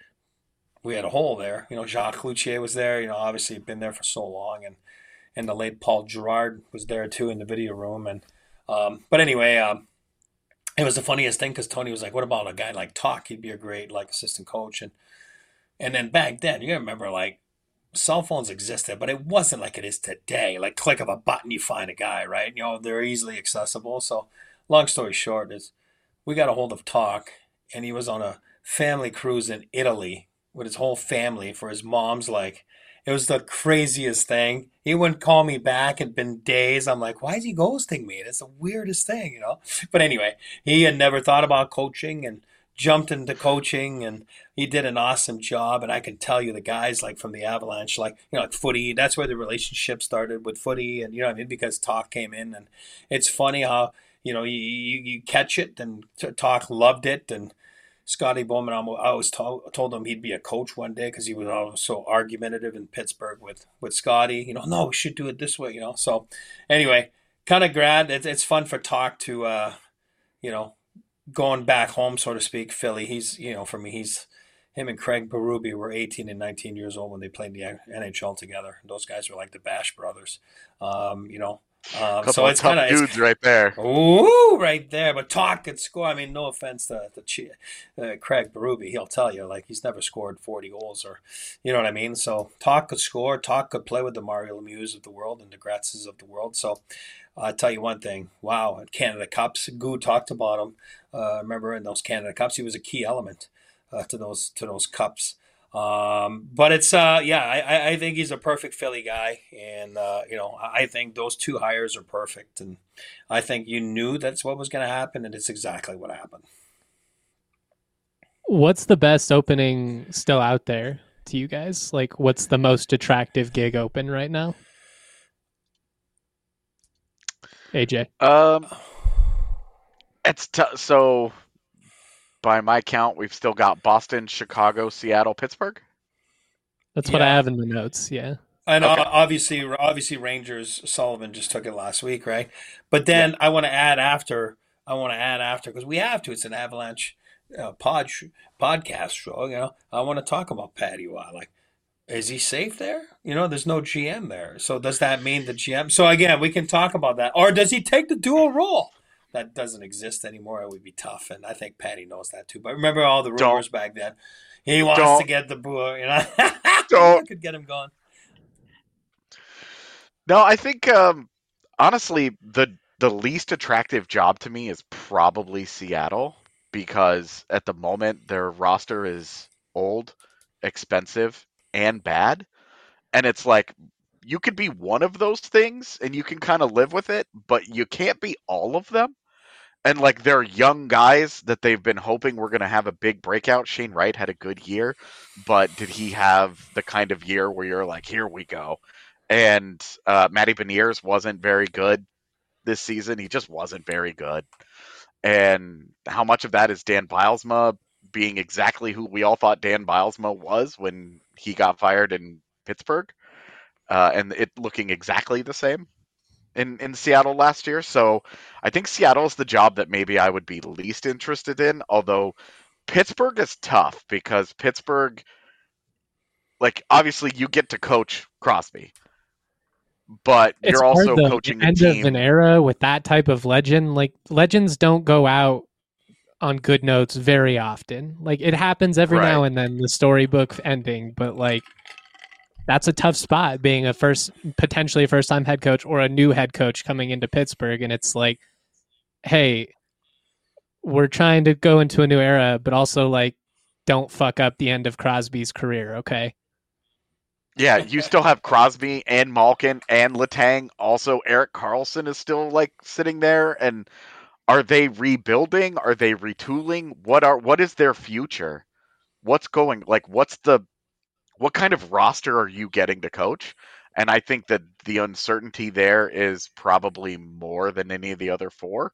we had a hole there. Jacques Cloutier was there, obviously had been there for so long. And the late Paul Gerard was there, too, in the video room. And but anyway, it was the funniest thing because Tony was like, what about a guy like Talk? He'd be a great assistant coach. And then back then, you gotta remember, cell phones existed, but it wasn't like it is today. Like click of a button, you find a guy, right? They're easily accessible. So long story short is we got a hold of Talk, and he was on a family cruise in Italy with his whole family for his mom's it was the craziest thing. He wouldn't call me back. It'd been days. I'm like, why is he ghosting me? It's the weirdest thing, But anyway, he had never thought about coaching and jumped into coaching, and he did an awesome job. And I can tell you the guys from the Avalanche, footy, that's where the relationship started with footy. And, because Talk came in, and it's funny how, you catch it, and Talk loved it. And Scotty Bowman, I always told him he'd be a coach one day because he was always so argumentative in Pittsburgh with Scotty. No, we should do it this way, So anyway, kind of glad it's fun for Talk to, going back home, so to speak, Philly. He's, for me, him and Craig Berube were 18 and 19 years old when they played the NHL together. Those guys were like the Bash brothers, Couple so of it's tough kind of dudes right there. ooh, right there. But Talk could score. I mean, no offense to Craig Berube, he'll tell you he's never scored 40 goals, or you know what I mean. So Talk could score. Talk could play with the Mario Lemieux of the world and the Gratzes of the world. So I'll tell you one thing. Wow, Canada Cups. Goo talked about him. Remember in those Canada Cups, he was a key element to those cups. But it's I think he's a perfect Philly guy, and I think those two hires are perfect, and I think you knew that's what was going to happen, and it's exactly what happened. What's the best opening still out there to you guys? What's the most attractive gig open right now? AJ. It's so by my count, we've still got Boston, Chicago, Seattle, Pittsburgh. That's what I have in the notes. Yeah. And Okay. obviously Rangers, Sullivan just took it last week, right? But then I want to add after because we have to. It's an Avalanche podcast show. I want to talk about Patty Waugh. Is he safe there? There's no GM there. So does that mean the GM? So again, we can talk about that. Or does he take the dual role? That doesn't exist anymore. It would be tough, and I think Patty knows that too. But remember all the rumors back then. He wants to get the boo. I could get him going. No, I think honestly the least attractive job to me is probably Seattle, because at the moment their roster is old, expensive, and bad. And it's you could be one of those things and you can kind of live with it, but you can't be all of them. And like they're young guys that they've been hoping were going to have a big breakout. Shane Wright had a good year, but did he have the kind of year where you're like, here we go? And Matty Beniers wasn't very good this season. He just wasn't very good. And how much of that is Dan Bylsma being exactly who we all thought Dan Bylsma was when he got fired in Pittsburgh, and it looking exactly the same in Seattle last year. So I think Seattle is the job that maybe I would be least interested in, although Pittsburgh is tough because Pittsburgh, like, obviously you get to coach Crosby, but It's you're hard also though. coaching The a end of an team. era with that type of legend, like legends don't go out on good notes very often. Like it happens every Right. now and then, the storybook ending, but like that's a tough spot being a potentially first time head coach or a new head coach coming into Pittsburgh. And it's like, hey, we're trying to go into a new era, but also like don't fuck up the end of Crosby's career, okay? Yeah, you still have Crosby and Malkin and Letang. Also, Eric Carlson is still like sitting there. And are they rebuilding? Are they retooling? What is their future? What's going like? What kind of roster are you getting to coach? And I think that the uncertainty there is probably more than any of the other four,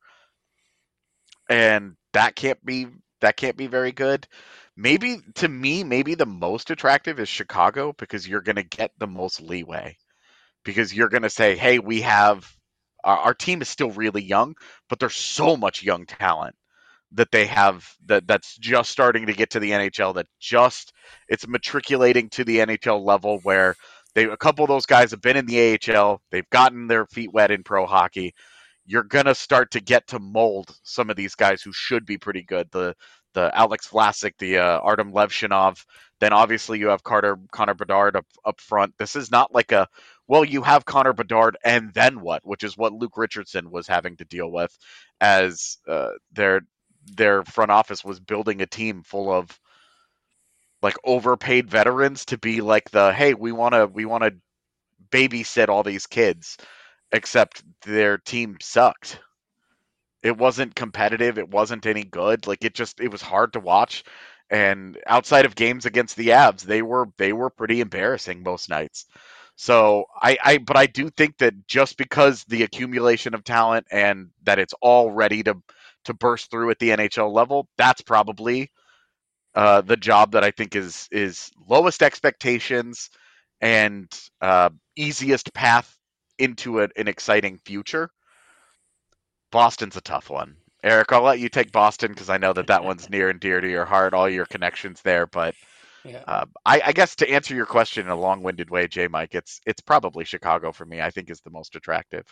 and that can't be very good. Maybe to me, maybe the most attractive is Chicago because you're going to get the most leeway because you're going to say, hey, we have our team is still really young, but there's so much young talent that they have that's just starting to get to the NHL, that just it's matriculating to the NHL level where a couple of those guys have been in the AHL, they've gotten their feet wet in pro hockey. You're gonna start to get to mold some of these guys who should be pretty good. The Alex Vlasic, the Artem Levshinov. Then obviously you have Connor Bedard up front. This is not like you have Connor Bedard and then what, which is what Luke Richardson was having to deal with as their front office was building a team full of like overpaid veterans to be like hey, we want to babysit all these kids, except their team sucked. It wasn't competitive, it wasn't any good. Like it was hard to watch, and outside of games against the Avs, they were pretty embarrassing most nights. So but I do think that just because the accumulation of talent and that it's all ready to burst through at the NHL level, that's probably the job that I think is lowest expectations and easiest path into an exciting future. Boston's a tough one. Eric, I'll let you take Boston because I know that one's near and dear to your heart, all your connections there. But Yeah. I guess to answer your question in a long-winded way, J. Mike, it's probably Chicago for me. I think is the most attractive.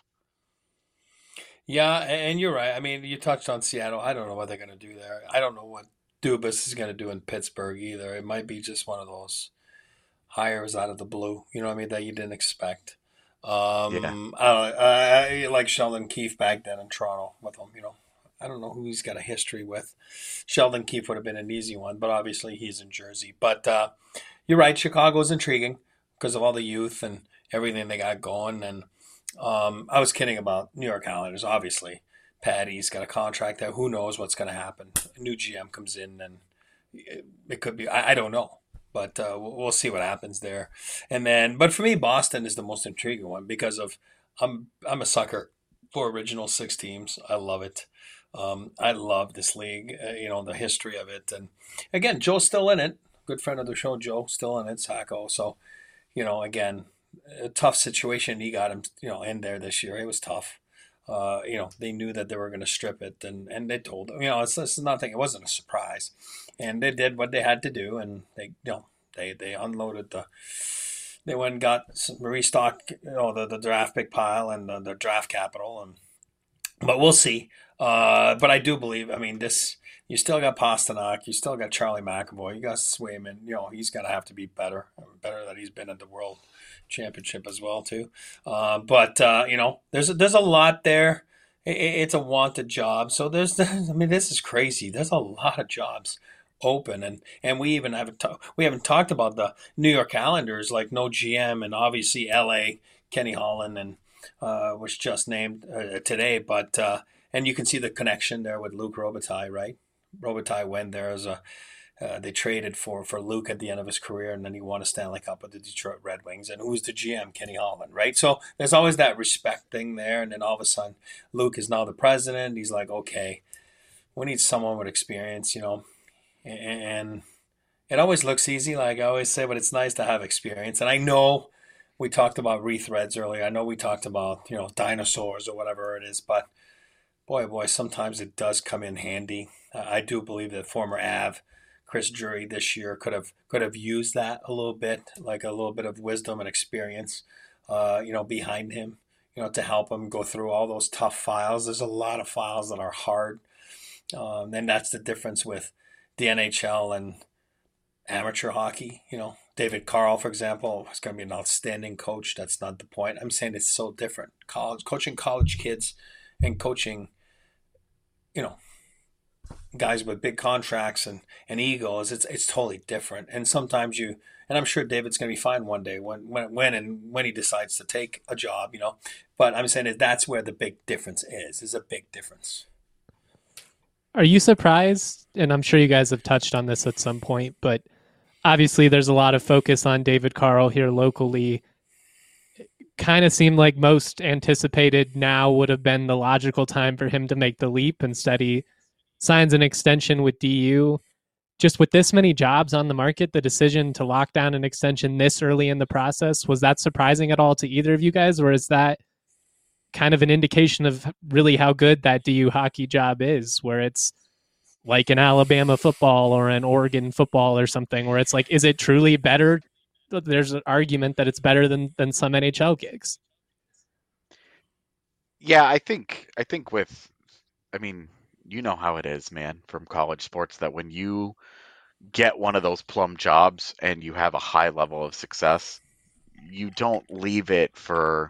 Yeah, and you're right. I mean, you touched on Seattle. I don't know what they're going to do there. I don't know what Dubas is going to do in Pittsburgh either. It might be just one of those hires out of the blue, you know what I mean, that you didn't expect. Yeah. I don't know. I like Sheldon Keefe back then in Toronto with him, you know. I don't know who he's got a history with. Sheldon Keefe would have been an easy one, but obviously he's in Jersey. But you're right, Chicago's intriguing because of all the youth and everything they got going. And I was kidding about New York Islanders, obviously. Patty's got a contract there. Who knows what's going to happen? A new GM comes in, and it could be. I don't know, but we'll see what happens there. And then, but for me, Boston is the most intriguing one because of I'm a sucker for original six teams. I love it. I love this league. You know, the history of it, and again, Joe's still in it. Good friend of the show, Joe, still in it. Sacco. So, you know, again, a tough situation. He got him, you know, in there this year. It was tough. You know, they knew that they were going to strip it, and they told him. You know, it's nothing. It wasn't a surprise, and they did what they had to do, and they unloaded They went and got restocked, you know, the draft pick pile and the draft capital, and but we'll see. But I do believe. I mean, this. You still got Pasternak. You still got Charlie McAvoy. You got Swayman. You know, he's going to have to be better. Better that he's been at the World Championship as well too. But you know, there's a lot there. It's a wanted job. So I mean, this is crazy. There's a lot of jobs open, and we even we haven't talked about the New York Islanders, like no GM, and obviously L.A. Kenny Holland and was just named today, but. and you can see the connection there with Luke Robitaille, right? Robitaille went there as a they traded for Luke at the end of his career, and then he won a Stanley Cup with the Detroit Red Wings. And who's the GM? Kenny Holland, right? So there's always that respect thing there. And then all of a sudden, Luke is now the president. He's like, okay, we need someone with experience, and it always looks easy, like I always say, but it's nice to have experience. And I know we talked about rethreads earlier. I know we talked about, dinosaurs or whatever it is, but boy, sometimes it does come in handy. I do believe that former Av Chris Drury this year could have used that a little bit, like a little bit of wisdom and experience, behind him, to help him go through all those tough files. There's a lot of files that are hard, and that's the difference with the NHL and amateur hockey. David Carl, for example, is going to be an outstanding coach. That's not the point. I'm saying it's so different. Coaching college kids and coaching, guys with big contracts and egos, it's totally different. And sometimes and I'm sure David's going to be fine one day when he decides to take a job, But I'm saying that's where the big difference is. There's a big difference. Are you surprised? And I'm sure you guys have touched on this at some point, but obviously there's a lot of focus on David Carl here locally. Kind of seemed like most anticipated now would have been the logical time for him to make the leap. Instead, he signs an extension with DU. Just with this many jobs on the market, the decision to lock down an extension this early in the process, was that surprising at all to either of you guys? Or is that kind of an indication of really how good that DU hockey job is, where it's like an Alabama football or an Oregon football or something, where it's like, is it truly better? There's an argument that it's better than some NHL gigs. Yeah, I think you know how it is, man, from college sports, that when you get one of those plum jobs and you have a high level of success, you don't leave it for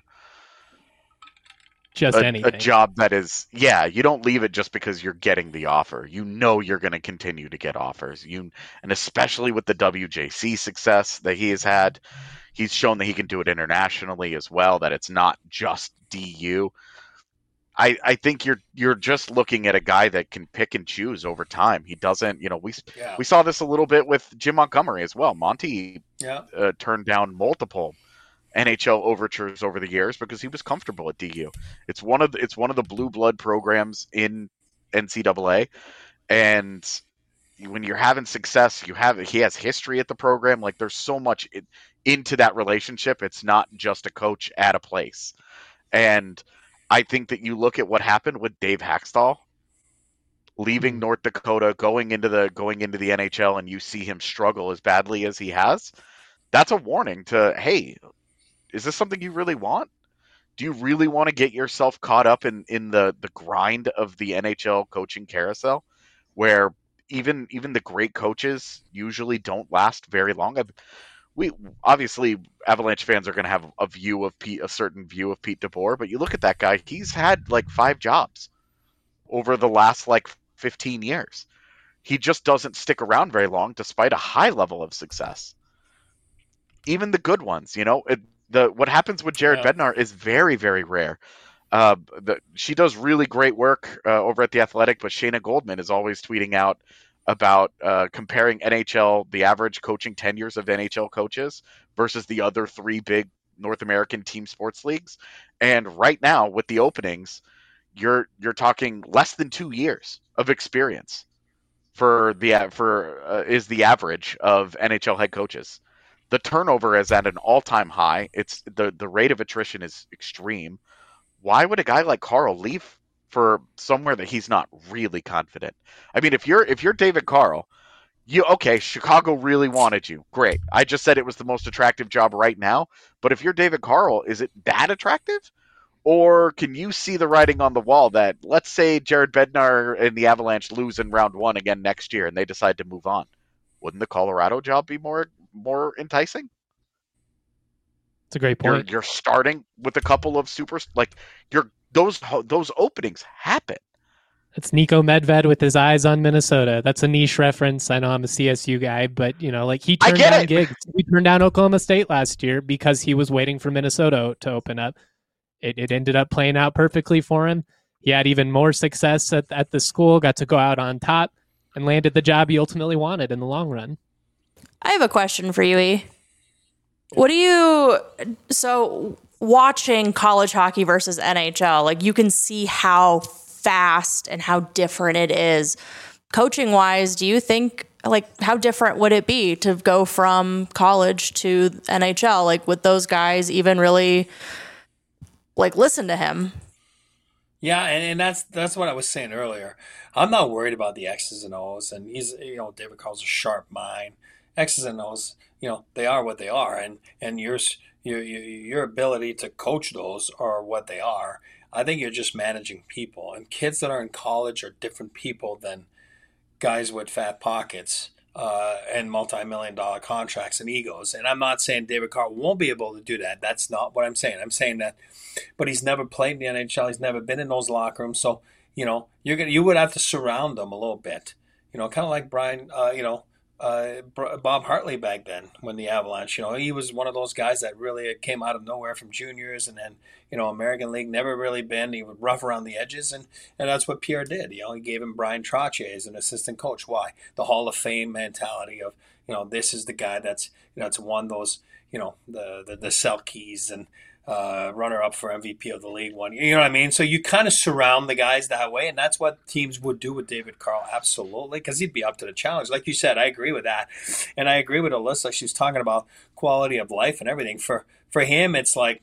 just anything. A job that is, you don't leave it just because you're getting the offer. You're going to continue to get offers. And especially with the WJC success that he has had, he's shown that he can do it internationally as well, that it's not just DU. I think you're just looking at a guy that can pick and choose over time. He doesn't, we saw this a little bit with Jim Montgomery as well. Monty turned down multiple NHL overtures over the years because he was comfortable at DU. It's one of the blue blood programs in NCAA, and when you're having success, he has history at the program. Like, there's so much into that relationship. It's not just a coach at a place. And I think that you look at what happened with Dave Haxtell leaving North Dakota, going into the NHL, and you see him struggle as badly as he has. That's a warning to, hey, is this something you really want? Do you really want to get yourself caught up in the grind of the NHL coaching carousel, where even the great coaches usually don't last very long? We obviously, Avalanche fans are going to have a certain view of Pete DeBoer, but you look at that guy; he's had like 5 jobs over the last 15 years. He just doesn't stick around very long, despite a high level of success. Even the good ones, what happens with Jared Bednar is very, very rare. She does really great work over at The Athletic, but Shayna Goldman is always tweeting out about comparing the average coaching tenures of NHL coaches versus the other 3 big North American team sports leagues. And right now, with the openings, you're talking less than 2 years of experience is the average of NHL head coaches. The turnover is at an all-time high. It's the rate of attrition is extreme. Why would a guy like Carl leave for somewhere that he's not really confident? I mean, if you're David Carl, Chicago really wanted you. Great. I just said it was the most attractive job right now. But if you're David Carl, is it that attractive? Or can you see the writing on the wall that, let's say Jared Bednar and the Avalanche lose in round 1 again next year and they decide to move on? Wouldn't the Colorado job be more enticing? It's a great point. You're starting with a couple of those openings happen. It's Nico Medved with his eyes on Minnesota. That's a niche reference. I know I'm a CSU guy, but he turned down gigs. He turned down Oklahoma State last year because he was waiting for Minnesota to open up. It ended up playing out perfectly for him. he had even more success at the school, got to go out on top, and landed the job he ultimately wanted in the long run. I have a question for you, E. So watching college hockey versus NHL, like you can see how fast and how different it is. Coaching wise, do you think, like, how different would it be to go from college to NHL? Like, would those guys even really like listen to him? Yeah, and that's what I was saying earlier. I'm not worried about the X's and O's, and David Carl's a sharp mind. X's and O's, they are what they are, and your ability to coach those are what they are. I think you're just managing people, and kids that are in college are different people than guys with fat pockets and multi-million-dollar contracts and egos. And I'm not saying David Carl won't be able to do that. That's not what I'm saying. I'm saying that, but he's never played in the NHL. He's never been in those locker rooms. So, you would have to surround them a little bit. Kind of like Brian, Bob Hartley back then when the Avalanche. He was one of those guys that really came out of nowhere from juniors, and then American League, never really been. He would rough around the edges, and that's what Pierre did. He gave him Brian Trottier as an assistant coach. Why? The Hall of Fame mentality of this is the guy that's that's won those the Selkes and runner up for MVP of the league one. You know what I mean? So you kind of surround the guys that way, and that's what teams would do with David Carl, absolutely, because he'd be up to the challenge. Like you said, I agree with that, and I agree with Alyssa. She was talking about quality of life and everything. For him, it's like,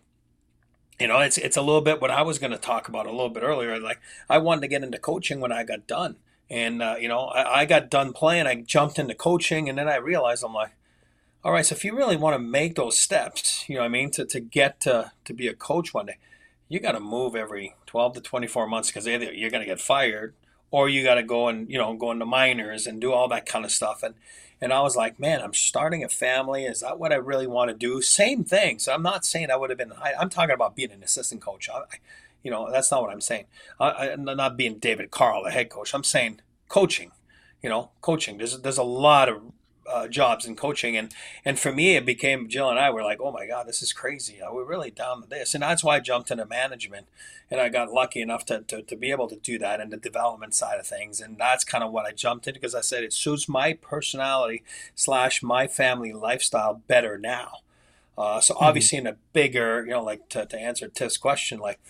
it's a little bit what I was going to talk about a little bit earlier. Like, I wanted to get into coaching when I got done, and I got done playing. I jumped into coaching, and then I realized, I'm like, all right, so if you really want to make those steps, to get to be a coach one day, you got to move every 12 to 24 months, because either you're going to get fired or you got to go and, go into minors and do all that kind of stuff. And I was like, man, I'm starting a family. Is that what I really want to do? Same thing. So I'm not saying I would have been, I'm talking about being an assistant coach. That's not what I'm saying. I'm not being David Carl, the head coach. I'm saying coaching, coaching. There's a lot of jobs in coaching, and for me it became, Jill and I were like, oh my god, this is crazy, we're really down to this, and that's why I jumped into management, and I got lucky enough to be able to do that in the development side of things, and that's kind of what I jumped into, because I said it suits my personality / my family lifestyle better now. So obviously in a bigger, like to answer Tiff's question, like,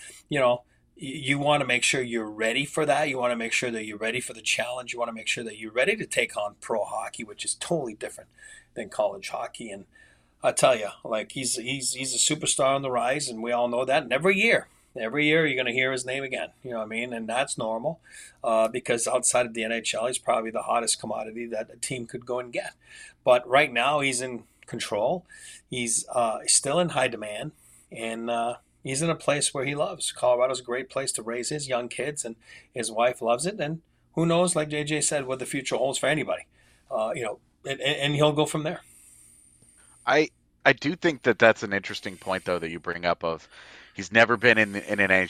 you want to make sure you're ready for that. You want to make sure that you're ready for the challenge. You want to make sure that you're ready to take on pro hockey, which is totally different than college hockey. And I tell you, like, he's a superstar on the rise, and we all know that. And every year you're going to hear his name again. You know what I mean? And that's normal, because outside of the NHL, he's probably the hottest commodity that a team could go and get. But right now, he's in control. He's still in high demand, and he's in a place where he loves. Colorado's a great place to raise his young kids, and his wife loves it. And who knows, like JJ said, what the future holds for anybody. And he'll go from there. I do think that that's an interesting point, though, that you bring up of he's never been in an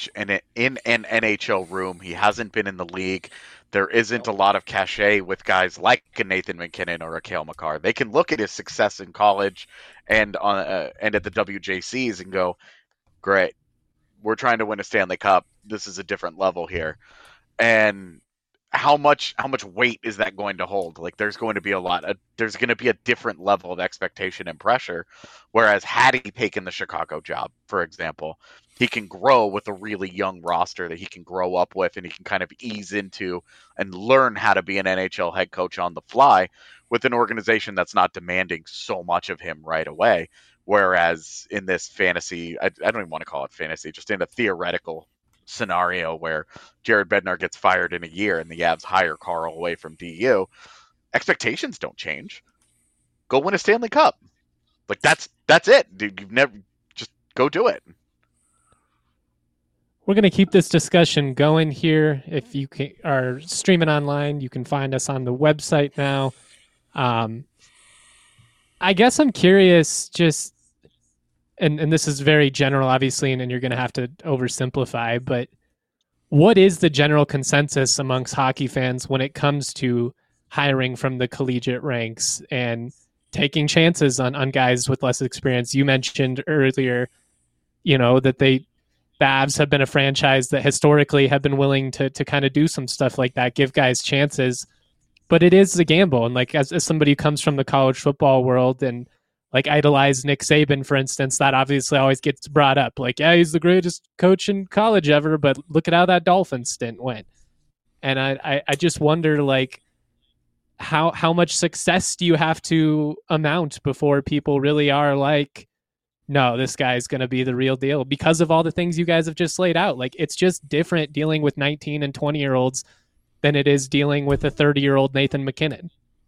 NHL room. He hasn't been in the league. There isn't a lot of cachet with guys like a Nathan MacKinnon or a Cale Makar. They can look at his success in college and at the WJCs and go, great, we're trying to win a Stanley Cup. This is a different level here. And how much weight is that going to hold? Like, there's going to be there's going to be a different level of expectation and pressure. Whereas had he taken the Chicago job, for example, he can grow with a really young roster that he can grow up with, and he can kind of ease into and learn how to be an NHL head coach on the fly with an organization that's not demanding so much of him right away. Whereas in this fantasy, I don't even want to call it fantasy, just in a theoretical scenario where Jared Bednar gets fired in a year and the Avs hire Carl away from DU, expectations don't change. Go win a Stanley Cup. Like, that's it, dude. You've never, just go do it. We're going to keep this discussion going here. If you are streaming online, you can find us on the website now. I guess I'm curious, just, and this is very general, obviously, and you're going to have to oversimplify, but what is the general consensus amongst hockey fans when it comes to hiring from the collegiate ranks and taking chances on guys with less experience? You mentioned earlier, that the Avs have been a franchise that historically have been willing to kind of do some stuff like that, give guys chances. But it is a gamble. And like as somebody who comes from the college football world and like idolize Nick Saban, for instance, that obviously always gets brought up. Like, yeah, he's the greatest coach in college ever, but look at how that Dolphins stint went. And I just wonder, like, how much success do you have to amount before people really are like, no, this guy's going to be the real deal, because of all the things you guys have just laid out. Like, it's just different dealing with 19 and 20-year-olds than it is dealing with a 30-year-old Nathan McKinnon.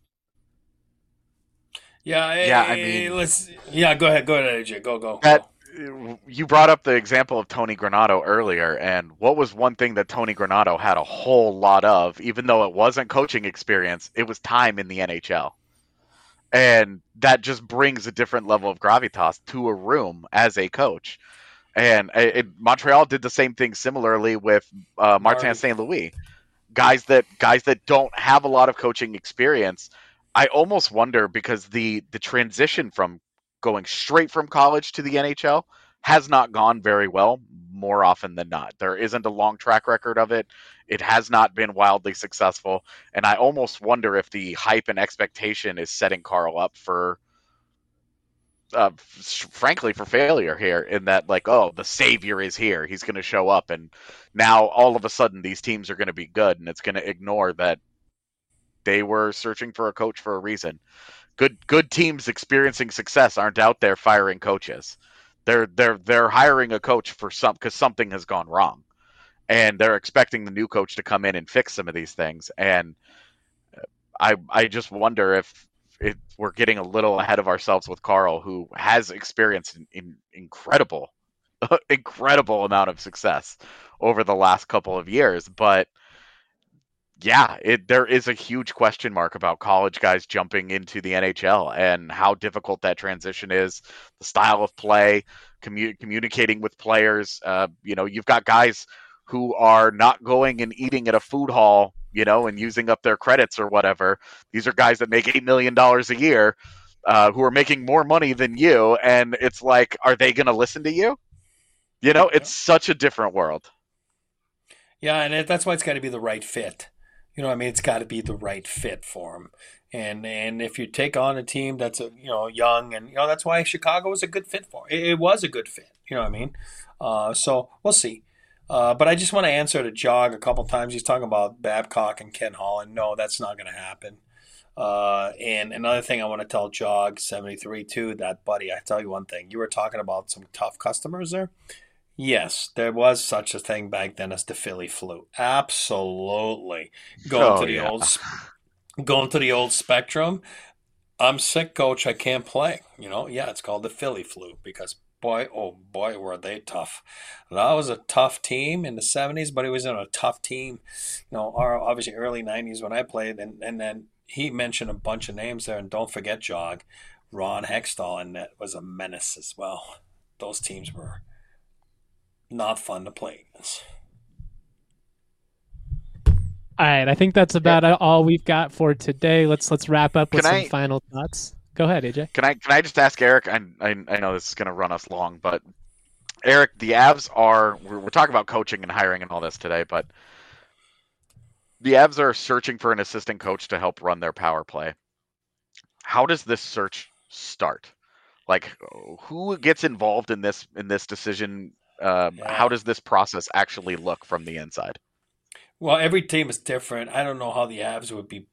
Yeah, I mean, go ahead, AJ, go. You brought up the example of Tony Granato earlier, and what was one thing that Tony Granato had a whole lot of, even though it wasn't coaching experience, it was time in the NHL. And that just brings a different level of gravitas to a room as a coach. And Montreal did the same thing similarly with Martin St. Louis. Guys that don't have a lot of coaching experience. I almost wonder, because the transition from going straight from college to the NHL has not gone very well more often than not. There isn't a long track record of it. It has not been wildly successful. And I almost wonder if the hype and expectation is setting Carl up for, frankly, for failure here, in that, like, oh, the savior is here. He's going to show up. And now all of a sudden these teams are going to be good, and it's going to ignore that they were searching for a coach for a reason. Good teams experiencing success aren't out there firing coaches. They're hiring a coach because something has gone wrong, and they're expecting the new coach to come in and fix some of these things. And I just wonder if we're getting a little ahead of ourselves with Carl, who has experienced in incredible amount of success over the last couple of years, but yeah, there is a huge question mark about college guys jumping into the NHL and how difficult that transition is, the style of play, communicating with players. You've got guys who are not going and eating at a food hall, and using up their credits or whatever. These are guys that make $8 million a year, who are making more money than you. And it's like, are they going to listen to you? It's such a different world. Yeah, and that's why it's got to be the right fit. It's got to be the right fit for him. And if you take on a team that's young, and that's why Chicago was a good fit for him. It was a good fit. So we'll see. But I just want to answer to Jog a couple times. He's talking about Babcock and Ken Holland. No, that's not going to happen. And another thing I want to tell Jog 73 too, that buddy. I tell you one thing. You were talking about some tough customers there. Yes, there was such a thing back then as the Philly flu. Absolutely. Going to the old Spectrum. I'm sick, coach. I can't play. It's called the Philly flu, because boy, oh boy, were they tough. That was a tough team in the 70s, but it was in a tough team, obviously early 90s when I played. And then he mentioned a bunch of names there. And don't forget, Jog, Ron Hextall, and that was a menace as well. Those teams were not fun to play against. All right, I think that's about all we've got for today. Let's wrap up with some final thoughts. Go ahead, AJ. Can I just ask Eric? I know this is going to run us long, but Eric, the Avs we're talking about coaching and hiring and all this today, but the Avs are searching for an assistant coach to help run their power play. How does this search start? Like, who gets involved in this decision? How does this process actually look from the inside? Well, every team is different. I don't know how the Avs would be,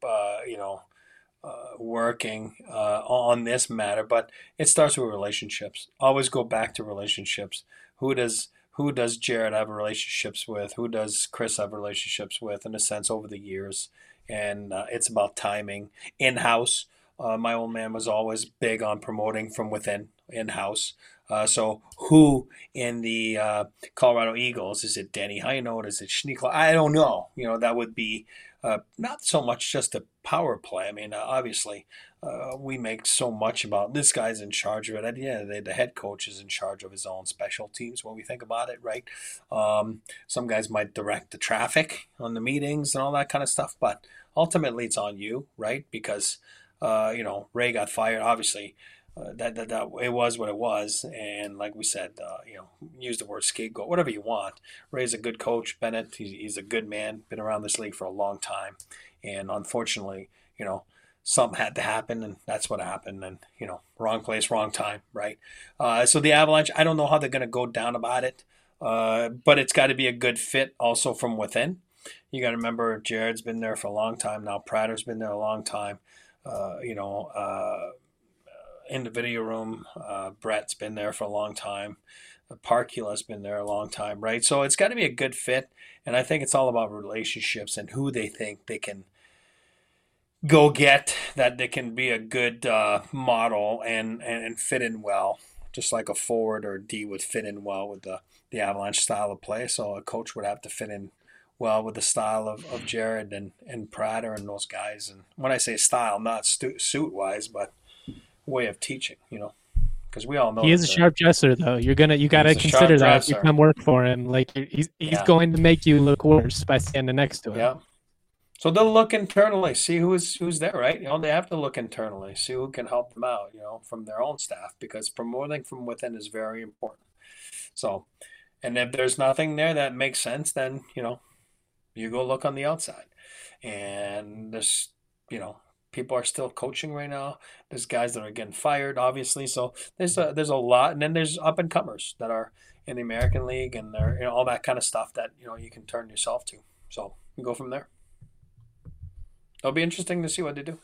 working on this matter, but it starts with relationships. Always go back to relationships. Who does Jared have relationships with? Who does Chris have relationships with? In a sense, over the years, and it's about timing. In-house, my old man was always big on promoting from within, in-house. So who in the Colorado Eagles, is it Danny Heinold? Is it Schneekla? I don't know. That would be not so much just a power play. I mean, obviously, we make so much about this guy's in charge of it. At the end of the day, the head coach is in charge of his own special teams when we think about it, right? Some guys might direct the traffic on the meetings and all that kind of stuff, but ultimately it's on you, right? Because, Ray got fired, obviously. that it was what it was. And like we said, use the word scapegoat, whatever you want. Ray's a good coach. Bennett, he's a good man, been around this league for a long time. And unfortunately, something had to happen, and that's what happened. And, wrong place, wrong time, right? So the Avalanche, I don't know how they're going to go down about it, but it's got to be a good fit also from within. You got to remember, Jared's been there for a long time now. Prater's been there a long time. In the video room, Brett's been there for a long time. Parkula's been there a long time, right? So it's got to be a good fit, and I think it's all about relationships and who they think they can go get, that they can be a good model and fit in well, just like a forward or D would fit in well with the Avalanche style of play. So a coach would have to fit in well with the style of Jared and Prater and those guys. And when I say style, not suit-wise, but way of teaching, because we all know he is a sharp dresser, though. You got to consider that if you come work for him. Like he's going to make you look worse by standing next to him. Yeah. So they'll look internally, see who's there, right? They have to look internally, see who can help them out, from their own staff, because promoting from within is very important. So, and if there's nothing there that makes sense, then you go look on the outside. And there's people are still coaching right now. There's guys that are getting fired, obviously. So there's a lot, and then there's up and comers that are in the American League, and they're all that kind of stuff that you can turn yourself to. So you go from there. It'll be interesting to see what they do.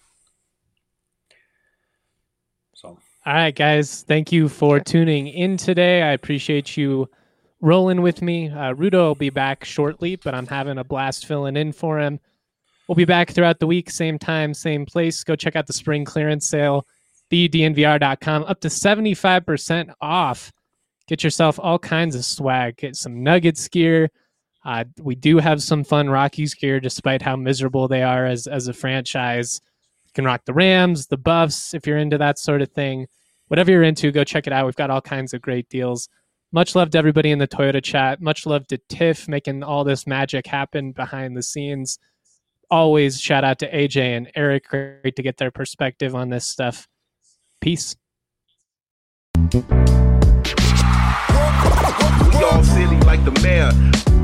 So, all right, guys, thank you for tuning in today. I appreciate you rolling with me. Rudo will be back shortly, but I'm having a blast filling in for him. We'll be back throughout the week, same time, same place. Go check out the spring clearance sale, thednvr.com, up to 75% off. Get yourself all kinds of swag. Get some Nuggets gear. We do have some fun Rockies gear, despite how miserable they are as a franchise. You can rock the Rams, the Buffs, if you're into that sort of thing. Whatever you're into, go check it out. We've got all kinds of great deals. Much love to everybody in the Toyota chat. Much love to Tiff making all this magic happen behind the scenes. Always shout out to AJ and Eric. Great to get their perspective on this stuff. Peace. We all silly like the mayor.